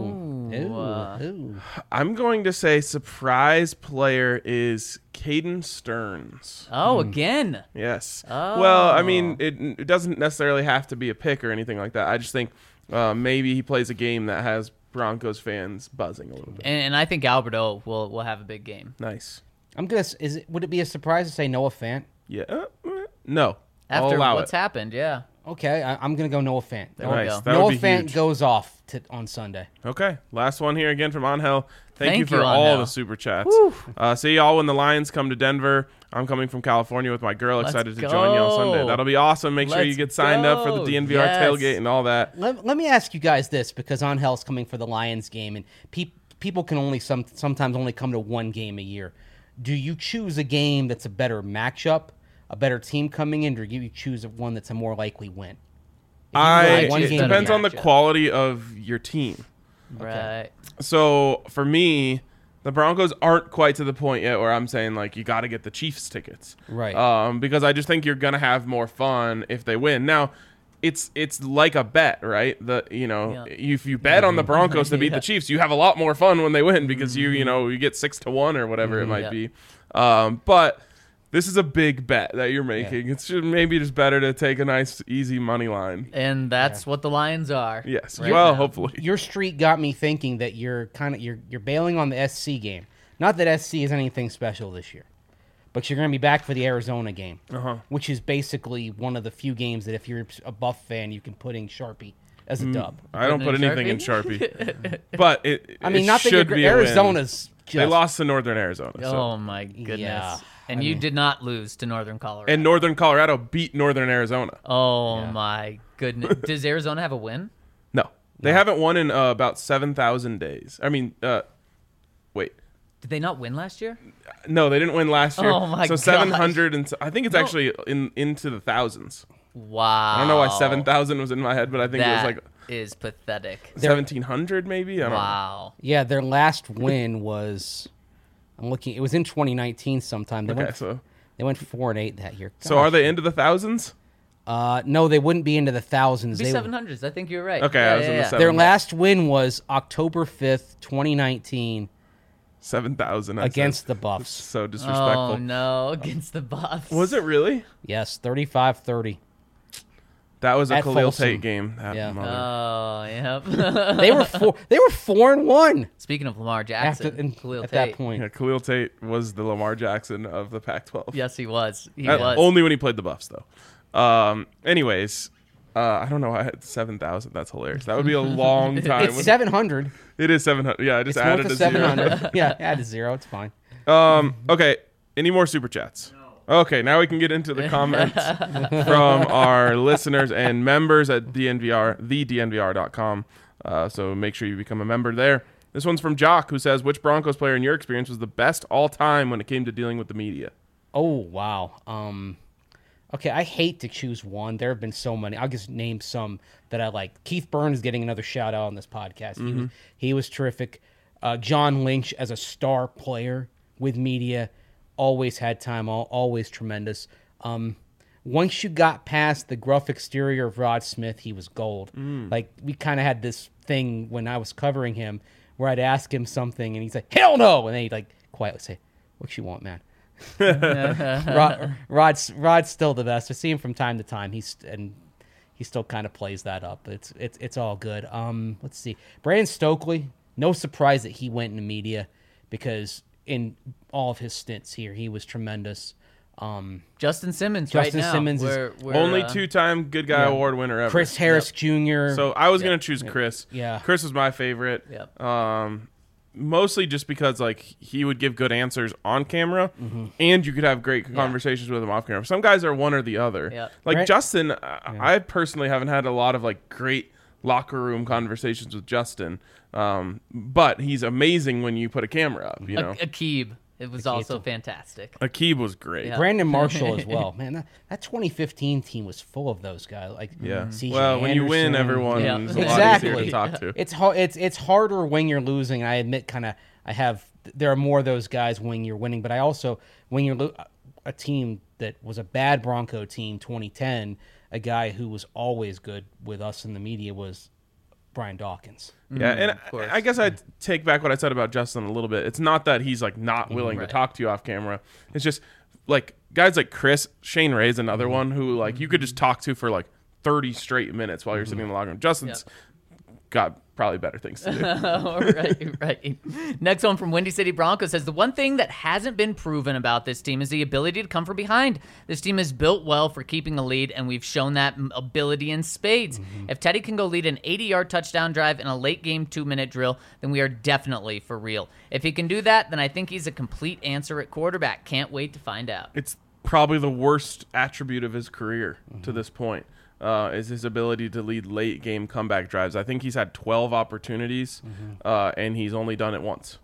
Ooh. I'm going to say surprise player is Caden Stearns. Oh, again. Yes. Oh. Well, I mean, it doesn't necessarily have to be a pick or anything like that. I just think maybe he plays a game that has Broncos fans buzzing a little bit. And I think Alberto will have a big game. Nice. I'm gonna. Would it be a surprise to say Noah Fant? Yeah. No. I'll After allow what's it. happened, yeah. Okay, I'm gonna go Noah Fant. There we Nice. go. That would Noah be Fant huge. goes off on Sunday. Okay, last one here again from Angel. Thank you Thank for you, all Angel. the super chats. See y'all when the Lions come to Denver. I'm coming from California with my girl. Excited to join you on Sunday. go. That'll be awesome. Make sure you Let's get signed up for the go. DNVR Yes. tailgate and all that. Let me ask you guys this, because Angel's coming for the Lions game, and people can only sometimes only come to one game a year. Do you choose a game that's a better matchup, a better team coming in, or do you choose one that's a more likely win? like one It game depends a on the matchup. quality of your team. Right. So for me, the Broncos aren't quite to the point yet where I'm saying like you got to get the Chiefs tickets, Right. Because I just think you're gonna have more fun if they win. Now, it's like a bet, right? If you bet on the Broncos to beat Yeah. the Chiefs, you have a lot more fun when they win because you get 6-1 or whatever it might Yeah. be. But this is a big bet that you're making. It's maybe just better to take a nice easy money line. And that's what the Lions are. Yes. right Well, now. hopefully. Your streak got me thinking that you're bailing on the SC game. Not that SC is anything special this year, but you're going to be back for the Arizona game, which is basically one of the few games that if you're a Buff fan, you can put in Sharpie as a dub. I don't put Putting in anything in Sharpie. But it Not that should you're, be a win. Arizona's just, They lost to Northern Arizona. So. Oh, my goodness. Yeah. And you did not lose to Northern Colorado. And Northern Colorado beat Northern Arizona. oh, Yeah. my goodness. Does Arizona have a win? No. They haven't won in about 7,000 days. I mean, wait. Did they not win last year? No, they didn't win last year. Oh, my So gosh. 700 and I think it's actually into the thousands. Wow. I don't know why 7,000 was in my head, but I think it was like is pathetic. 1,700 maybe. I don't know. Wow. Yeah, their last win was. I'm looking. It was in 2019 sometime. They went 4-8 that year. So are they into the thousands? No, they wouldn't be into the thousands. It'd be They 700s. I think you're right. Okay, I was in the yeah. seven- Their last win was October 5th, 2019, 7,000 against the Buffs. So disrespectful. Oh no, against the Buffs. Was it really? Yes, 35-30. That was a At Khalil Folsom. Tate game. That Yeah. mother- Oh, yep. They were 4-1 Speaking of Lamar Jackson, after Khalil at Tate. that point. Yeah, Khalil Tate was the Lamar Jackson of the Pac-12. Yes, he was. He was. Only when he played the Buffs, though. Anyways, I don't know why I had 7,000. That's hilarious. That would be a long time. It's 700. It is 700. Yeah, I just It's added north a of zero. 700. Yeah, add a zero. It's fine. Okay. Any more super chats? Okay, now we can get into the comments from our listeners and members at DNVR, thednvr.com. So make sure you become a member there. This one's from Jock, who says, which Broncos player in your experience was the best all time when it came to dealing with the media? Oh, wow. Okay, I hate to choose one. There have been so many. I'll just name some that I like. Keith Burns is getting another shout out on this podcast. He was terrific. John Lynch as a star player with media, always had time, always tremendous. Once you got past the gruff exterior of Rod Smith, he was gold. Like, we kind of had this thing when I was covering him where I'd ask him something and he'd say, hell no! And then he'd like quietly say, what you want, man? Rod's still the best. I see him from time to time. He still kind of plays that up. It's all good. Let's see. Brandon Stokely. No surprise that he went into media because in all of his stints here, he was tremendous. Justin Simmons Justin right now. Simmons is we're, Only two-time Good Guy Award winner ever. Chris Harris Jr. So I was going to choose Chris. Yeah. Chris was my favorite. Yep. Mostly just because like he would give good answers on camera, and you could have great conversations with him off camera. Some guys are one or the other. Yep. Like Right. Justin, I personally haven't had a lot of like great locker room conversations with Justin, but he's amazing when you put a camera up. You know, Akib. It was also fantastic. Akib was great. Yeah. Brandon Marshall as well. Man, that 2015 team was full of those guys. Like Yeah. CJ Well, when you win, Anderson. everyone's Yeah. a lot easier Exactly. to talk to. It's harder when you're losing. I admit, there are more of those guys when you're winning, but I also when you're a team that was a bad Bronco team 2010, a guy who was always good with us in the media was Brian Dawkins. Yeah, and course. I guess I'd take back what I said about Justin a little bit. It's not that he's like not willing to Right. talk to you off camera. It's just like guys like Chris, Shane Ray's another one who like you could just talk to for like 30 straight minutes while you're sitting in the locker room. Justin's got probably better things to do. Oh, right. Next one from Windy City Broncos says, the one thing that hasn't been proven about this team is the ability to come from behind. This team is built well for keeping a lead, and we've shown that ability in spades. If Teddy can go lead an 80-yard touchdown drive in a late-game 2-minute drill, then we are definitely for real. If he can do that, then I think he's a complete answer at quarterback. Can't wait to find out. It's probably the worst attribute of his career to this point. Is his ability to lead late game comeback drives. I think he's had 12 opportunities, and he's only done it once.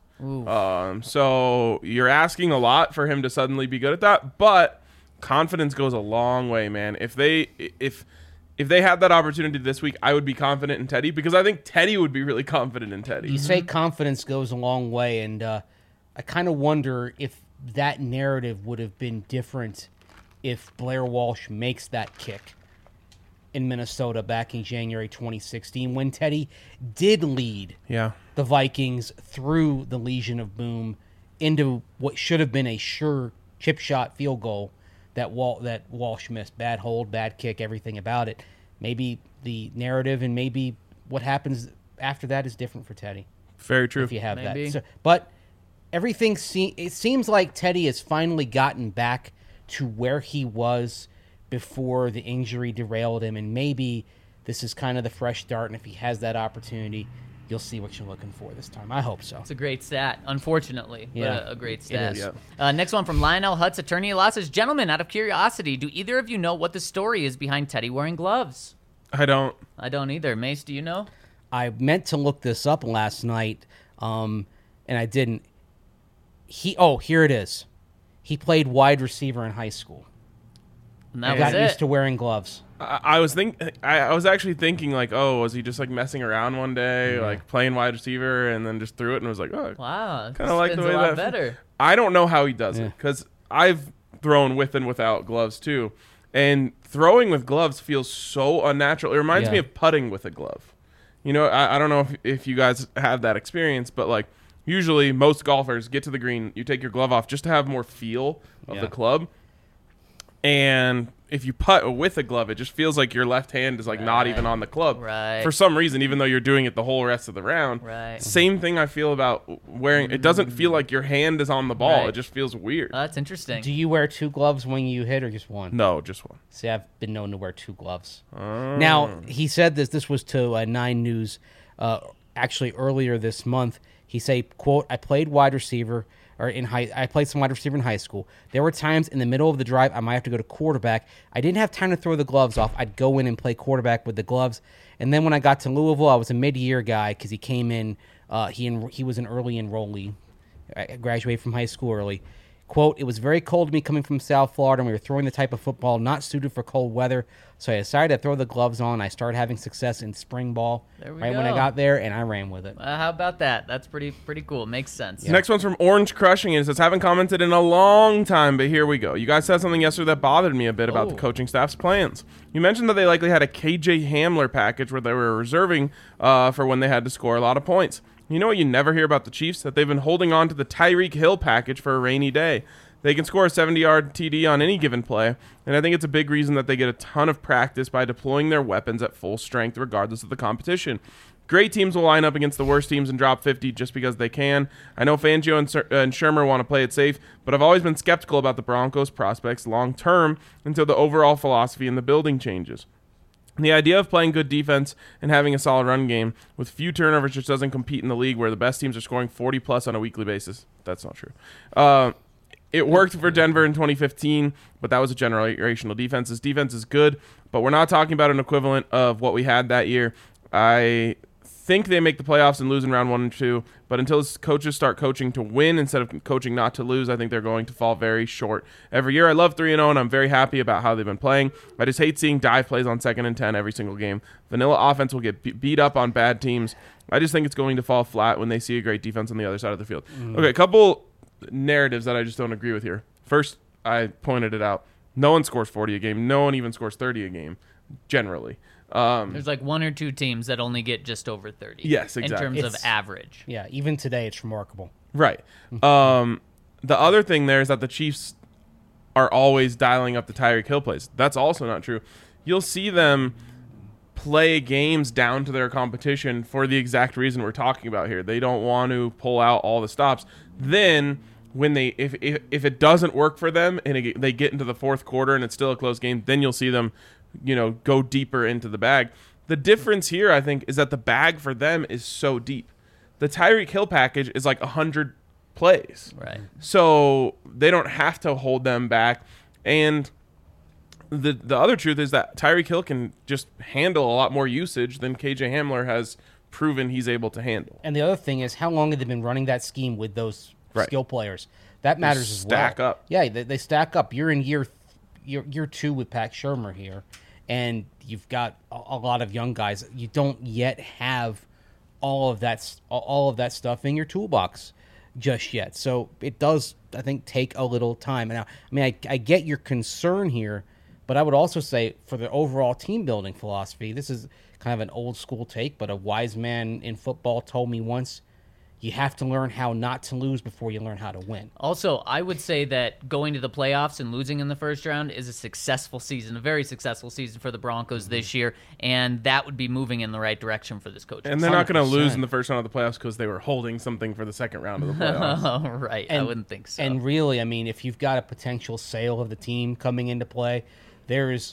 So you're asking a lot for him to suddenly be good at that, but confidence goes a long way, man. If they had that opportunity this week, I would be confident in Teddy because I think Teddy would be really confident in Teddy. You say confidence goes a long way, and I kind of wonder if that narrative would have been different if Blair Walsh makes that kick in Minnesota back in January 2016 when Teddy did lead Yeah. the Vikings through the Legion of Boom into what should have been a sure chip shot field goal that Walsh missed. Bad hold, bad kick, everything about it. Maybe the narrative and maybe what happens after that is different for Teddy Very true. if you have Maybe. that. So, but everything it seems like Teddy has finally gotten back to where he was before the injury derailed him, and maybe this is kind of the fresh start, and if he has that opportunity, you'll see what you're looking for this time. I hope so. It's a great stat, unfortunately, Yeah. but a great stat. is. Next one from Lionel Hutz, attorney law says, gentlemen, out of curiosity, do either of you know what the story is behind Teddy wearing gloves? I don't. I don't either. Mace, do you know? I meant to look this up last night, and I didn't. Here it is. He played wide receiver in high school. And I that got was used it. to wearing gloves. I was actually thinking like, oh, was he just like messing around one day, like playing wide receiver, and then just threw it and was like, oh, Wow. kind of like the spins way a lot that. better. I don't know how he does Yeah. it because I've thrown with and without gloves too, and throwing with gloves feels so unnatural. It reminds me Yeah. of putting with a glove. You know, I don't know if you guys have that experience, but like usually most golfers get to the green, you take your glove off just to have more feel of Yeah. the club. And if you putt with a glove, it just feels like your left hand is like not Right. even on the club Right. for some reason, even though you're doing it the whole rest of the round. Right. Same thing I feel about wearing. It doesn't feel like your hand is on the ball. Right. It just feels weird. Oh, that's interesting. Do you wear 2 gloves when you hit or just one? No, just one. See, I've been known to wear 2 gloves. Oh. Now, he said this was to 9 News actually earlier this month. He said, quote, I played wide receiver I played some wide receiver in high school. There were times in the middle of the drive I might have to go to quarterback. I didn't have time to throw the gloves off. I'd go in and play quarterback with the gloves. And then when I got to Louisville, I was a mid-year guy because he came in. He was an early enrollee. I graduated from high school early. Quote, it was very cold to me coming from South Florida, and we were throwing the type of football not suited for cold weather. So I decided to throw the gloves on. I started having success in spring ball There we right when I go. got there, and I ran with it. How about that? That's pretty cool. Makes sense. Next one's from Orange Crushing. It says, haven't commented in a long time, but here we go. You guys said something yesterday that bothered me a bit about the Oh. coaching staff's plans. You mentioned that they likely had a KJ Hamler package where they were reserving for when they had to score a lot of points. You know what you never hear about the Chiefs? That they've been holding on to the Tyreek Hill package for a rainy day. They can score a 70-yard TD on any given play, and I think it's a big reason that they get a ton of practice by deploying their weapons at full strength regardless of the competition. Great teams will line up against the worst teams and drop 50 just because they can. I know Fangio and Shermer want to play it safe, but I've always been skeptical about the Broncos' prospects long-term until the overall philosophy in the building changes. The idea of playing good defense and having a solid run game with few turnovers just doesn't compete in the league where the best teams are scoring 40-plus on a weekly basis. That's not true. It worked for Denver in 2015, but that was a generational defense. This defense is good, but we're not talking about an equivalent of what we had that year. I think they make the playoffs and lose in round 1 and 2, but until coaches start coaching to win instead of coaching not to lose, I think they're going to fall very short. Every year I love 3-0, and I'm very happy about how they've been playing. I just hate seeing dive plays on 2nd and 10 every single game. Vanilla offense will get beat up on bad teams. I just think it's going to fall flat when they see a great defense on the other side of the field. Okay, a couple narratives that I just don't agree with here. First, I pointed it out. No one scores 40 a game. No one even scores 30 a game, generally. There's like 1 or 2 teams that only get just over 30. Yes, In exactly. terms of It's- average. Yeah, even today it's remarkable. Right. The other thing there is that the Chiefs are always dialing up the Tyreek Hill plays. That's also not true. You'll see them play games down to their competition for the exact reason we're talking about here. They don't want to pull out all the stops. Then when they if it doesn't work for them and they get into the fourth quarter and it's still a close game, then you'll see them, go deeper into the bag. The difference here, I think, is that the bag for them is so deep. The Tyreek Hill package is like 100 plays. Right. So they don't have to hold them back. And the other truth is that Tyreek Hill can just handle a lot more usage than KJ Hamler has proven he's able to handle. And the other thing is, how long have they been running that scheme with those Right. skill players? That matters as well. stack up. Yeah, they stack up. You're in year 2 with Pat Shermer here, and you've got a lot of young guys. You don't yet have all of that stuff in your toolbox just yet. So it does, I think, take a little time. Now, I get your concern here, but I would also say for the overall team building philosophy, this is kind of an old school take, but a wise man in football told me once, you have to learn how not to lose before you learn how to win. Also, I would say that going to the playoffs and losing in the first round is a successful season, a very successful season for the Broncos this year, and that would be moving in the right direction for this coach. And they're not going to 100%. lose in the first round of the playoffs because they were holding something for the second round of the playoffs. Oh, right. I wouldn't think so. And really, if you've got a potential sale of the team coming into play, there's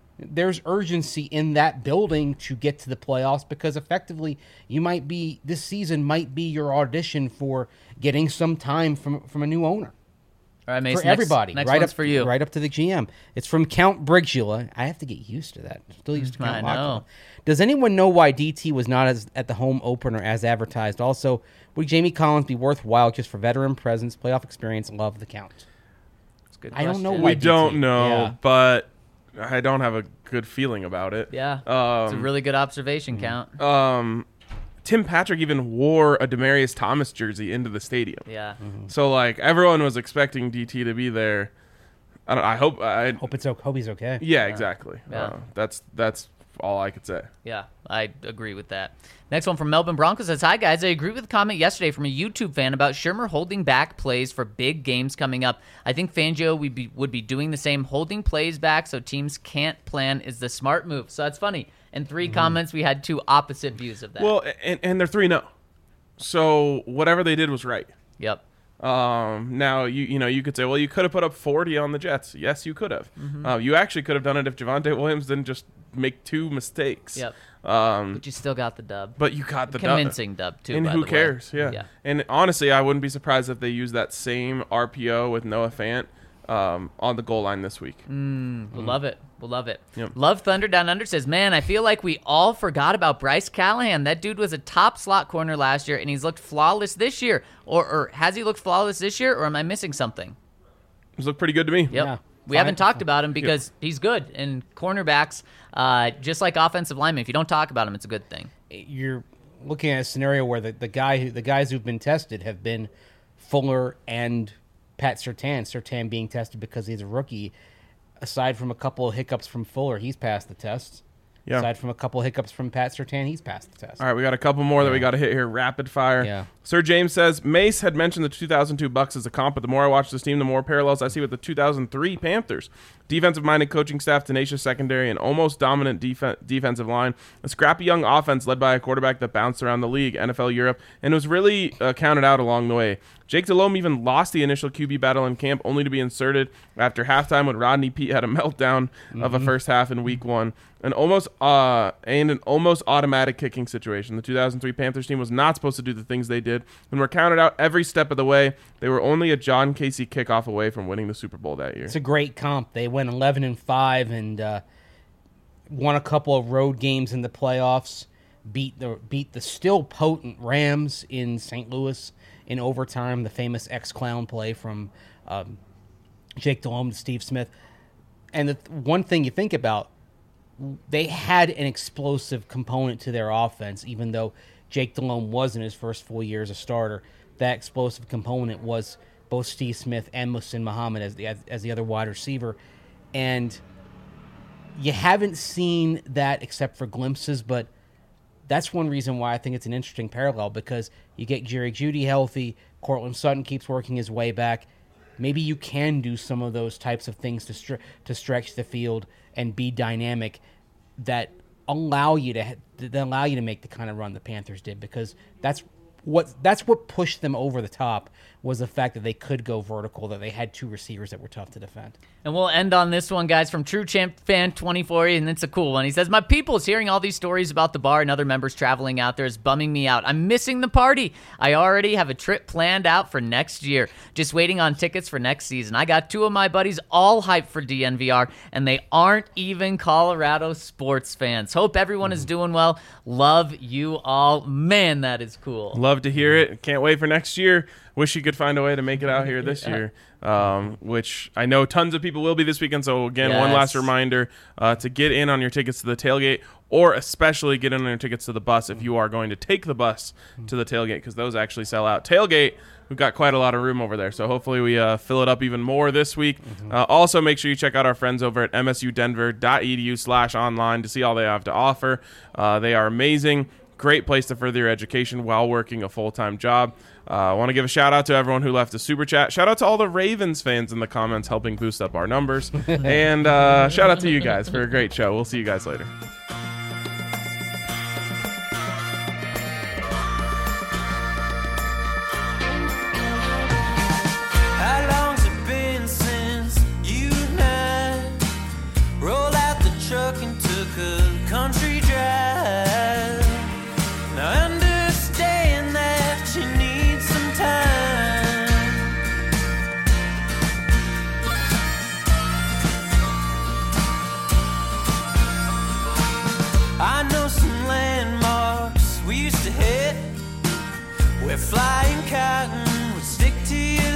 urgency in that building to get to the playoffs because effectively this season might be your audition for getting some time from a new owner. All right, Mason, For everybody. Next right one's up for you. Right up to the GM. It's from Count Brigula. I have to get used to that. Still used to Count I know. Lockhart. Does anyone know why DT was not at the home opener as advertised? Also, would Jamie Collins be worthwhile just for veteran presence, playoff experience, love the Count? That's a good I don't know question. why We don't DT. know, Yeah. but I don't have a good feeling about it. Yeah, it's a really good observation, Count. Tim Patrick even wore a Demaryius Thomas jersey into the stadium. Yeah. So like everyone was expecting DT to be there. I hope he's okay. Yeah, exactly. Yeah. That's all I could say. Yeah, I agree with that. Next one from Melbourne Broncos says, "Hi guys, I agree with the comment yesterday from a YouTube fan about Shermer holding back plays for big games coming up. I think Fangio would be doing the same, holding plays back so teams can't plan is the smart move." So that's funny. In 3 comments, we had 2 opposite views of that. Well, and they're 3-0, so whatever they did was right. Yep. Now you could say, well, you could have put up 40 on the Jets. Yes, you could have. You actually could have done it if Javonte Williams didn't just make 2 mistakes. Yep. But you still got the dub. But you got the convincing dub too. And by who the cares? way. Yeah. And honestly, I wouldn't be surprised if they use that same RPO with Noah Fant on the goal line this week. We'll love it. We'll love it. Yep. Love Thunder Down Under says, "Man, I feel like we all forgot about Bryce Callahan. That dude was a top slot corner last year, and he's looked flawless this year. Or has he looked flawless this year, or am I missing something?" He's looked pretty good to me. Yep. Yeah. We haven't talked about him because he's good. And cornerbacks, just like offensive linemen, if you don't talk about him, it's a good thing. You're looking at a scenario where the guys who've been tested have been Fuller and Pat Surtain. Surtain being tested because he's a rookie. Aside from a couple of hiccups from Fuller, he's passed the test. Yeah. Aside from a couple of hiccups from Pat Surtain, he's passed the test. All right, we got a couple more that we got to hit here. Rapid fire. Yeah. Sir James says, Mace had mentioned the 2002 Bucks as a comp, but the more I watch this team, the more parallels I see with the 2003 Panthers. Defensive-minded coaching staff, tenacious secondary, and almost dominant defensive line. A scrappy young offense led by a quarterback that bounced around the league, NFL, Europe, and was really counted out along the way. Jake Delhomme even lost the initial QB battle in camp, only to be inserted after halftime when Rodney Peete had a meltdown of a first half in week 1. An almost automatic kicking situation. The 2003 Panthers team was not supposed to do the things they did and were counted out every step of the way. They were only a John Casey kickoff away from winning the Super Bowl that year. It's a great comp. They went 11-5 and won a couple of road games in the playoffs. Beat the still potent Rams in St. Louis in overtime. The famous X-Clown play from Jake Delhomme to Steve Smith. And the one thing you think about, they had an explosive component to their offense, even though Jake Delhomme was in his first full year as a starter. That explosive component was both Steve Smith and Muhsin Muhammad as the other wide receiver. And you haven't seen that except for glimpses, but that's one reason why I think it's an interesting parallel, because you get Jerry Jeudy healthy, Cortland Sutton keeps working his way back. Maybe you can do some of those types of things to stretch the field and be dynamic that allow you to make the kind of run the Panthers did, because that's what pushed them over the top, was the fact that they could go vertical, that they had 2 receivers that were tough to defend. And we'll end on this one, guys, from True Champ Fan 24, and it's a cool one. He says, "My people's hearing all these stories about the bar and other members traveling out there is bumming me out. I'm missing the party. I already have a trip planned out for next year. Just waiting on tickets for next season. I got 2 of my buddies all hyped for DNVR, and they aren't even Colorado sports fans. Hope everyone is doing well. Love you all." Man, that is cool. Love to hear it. Can't wait for next year. Wish you could find a way to make it out here this year, which I know tons of people will be this weekend. So, again, one last reminder to get in on your tickets to the tailgate, or especially get in on your tickets to the bus if you are going to take the bus to the tailgate, because those actually sell out. Tailgate, we've got quite a lot of room over there, so hopefully we fill it up even more this week. Also, make sure you check out our friends over at msudenver.edu/online to see all they have to offer. They are amazing. Great place to further your education while working a full-time job. I want to give a shout-out to everyone who left a super chat. Shout-out to all the Ravens fans in the comments helping boost up our numbers. And shout-out to you guys for a great show. We'll see you guys later. How long's it been since you and I rolled out the truck and took a country drive? Now I understand that you need some time. I know some landmarks we used to hit, where flying cotton would stick to your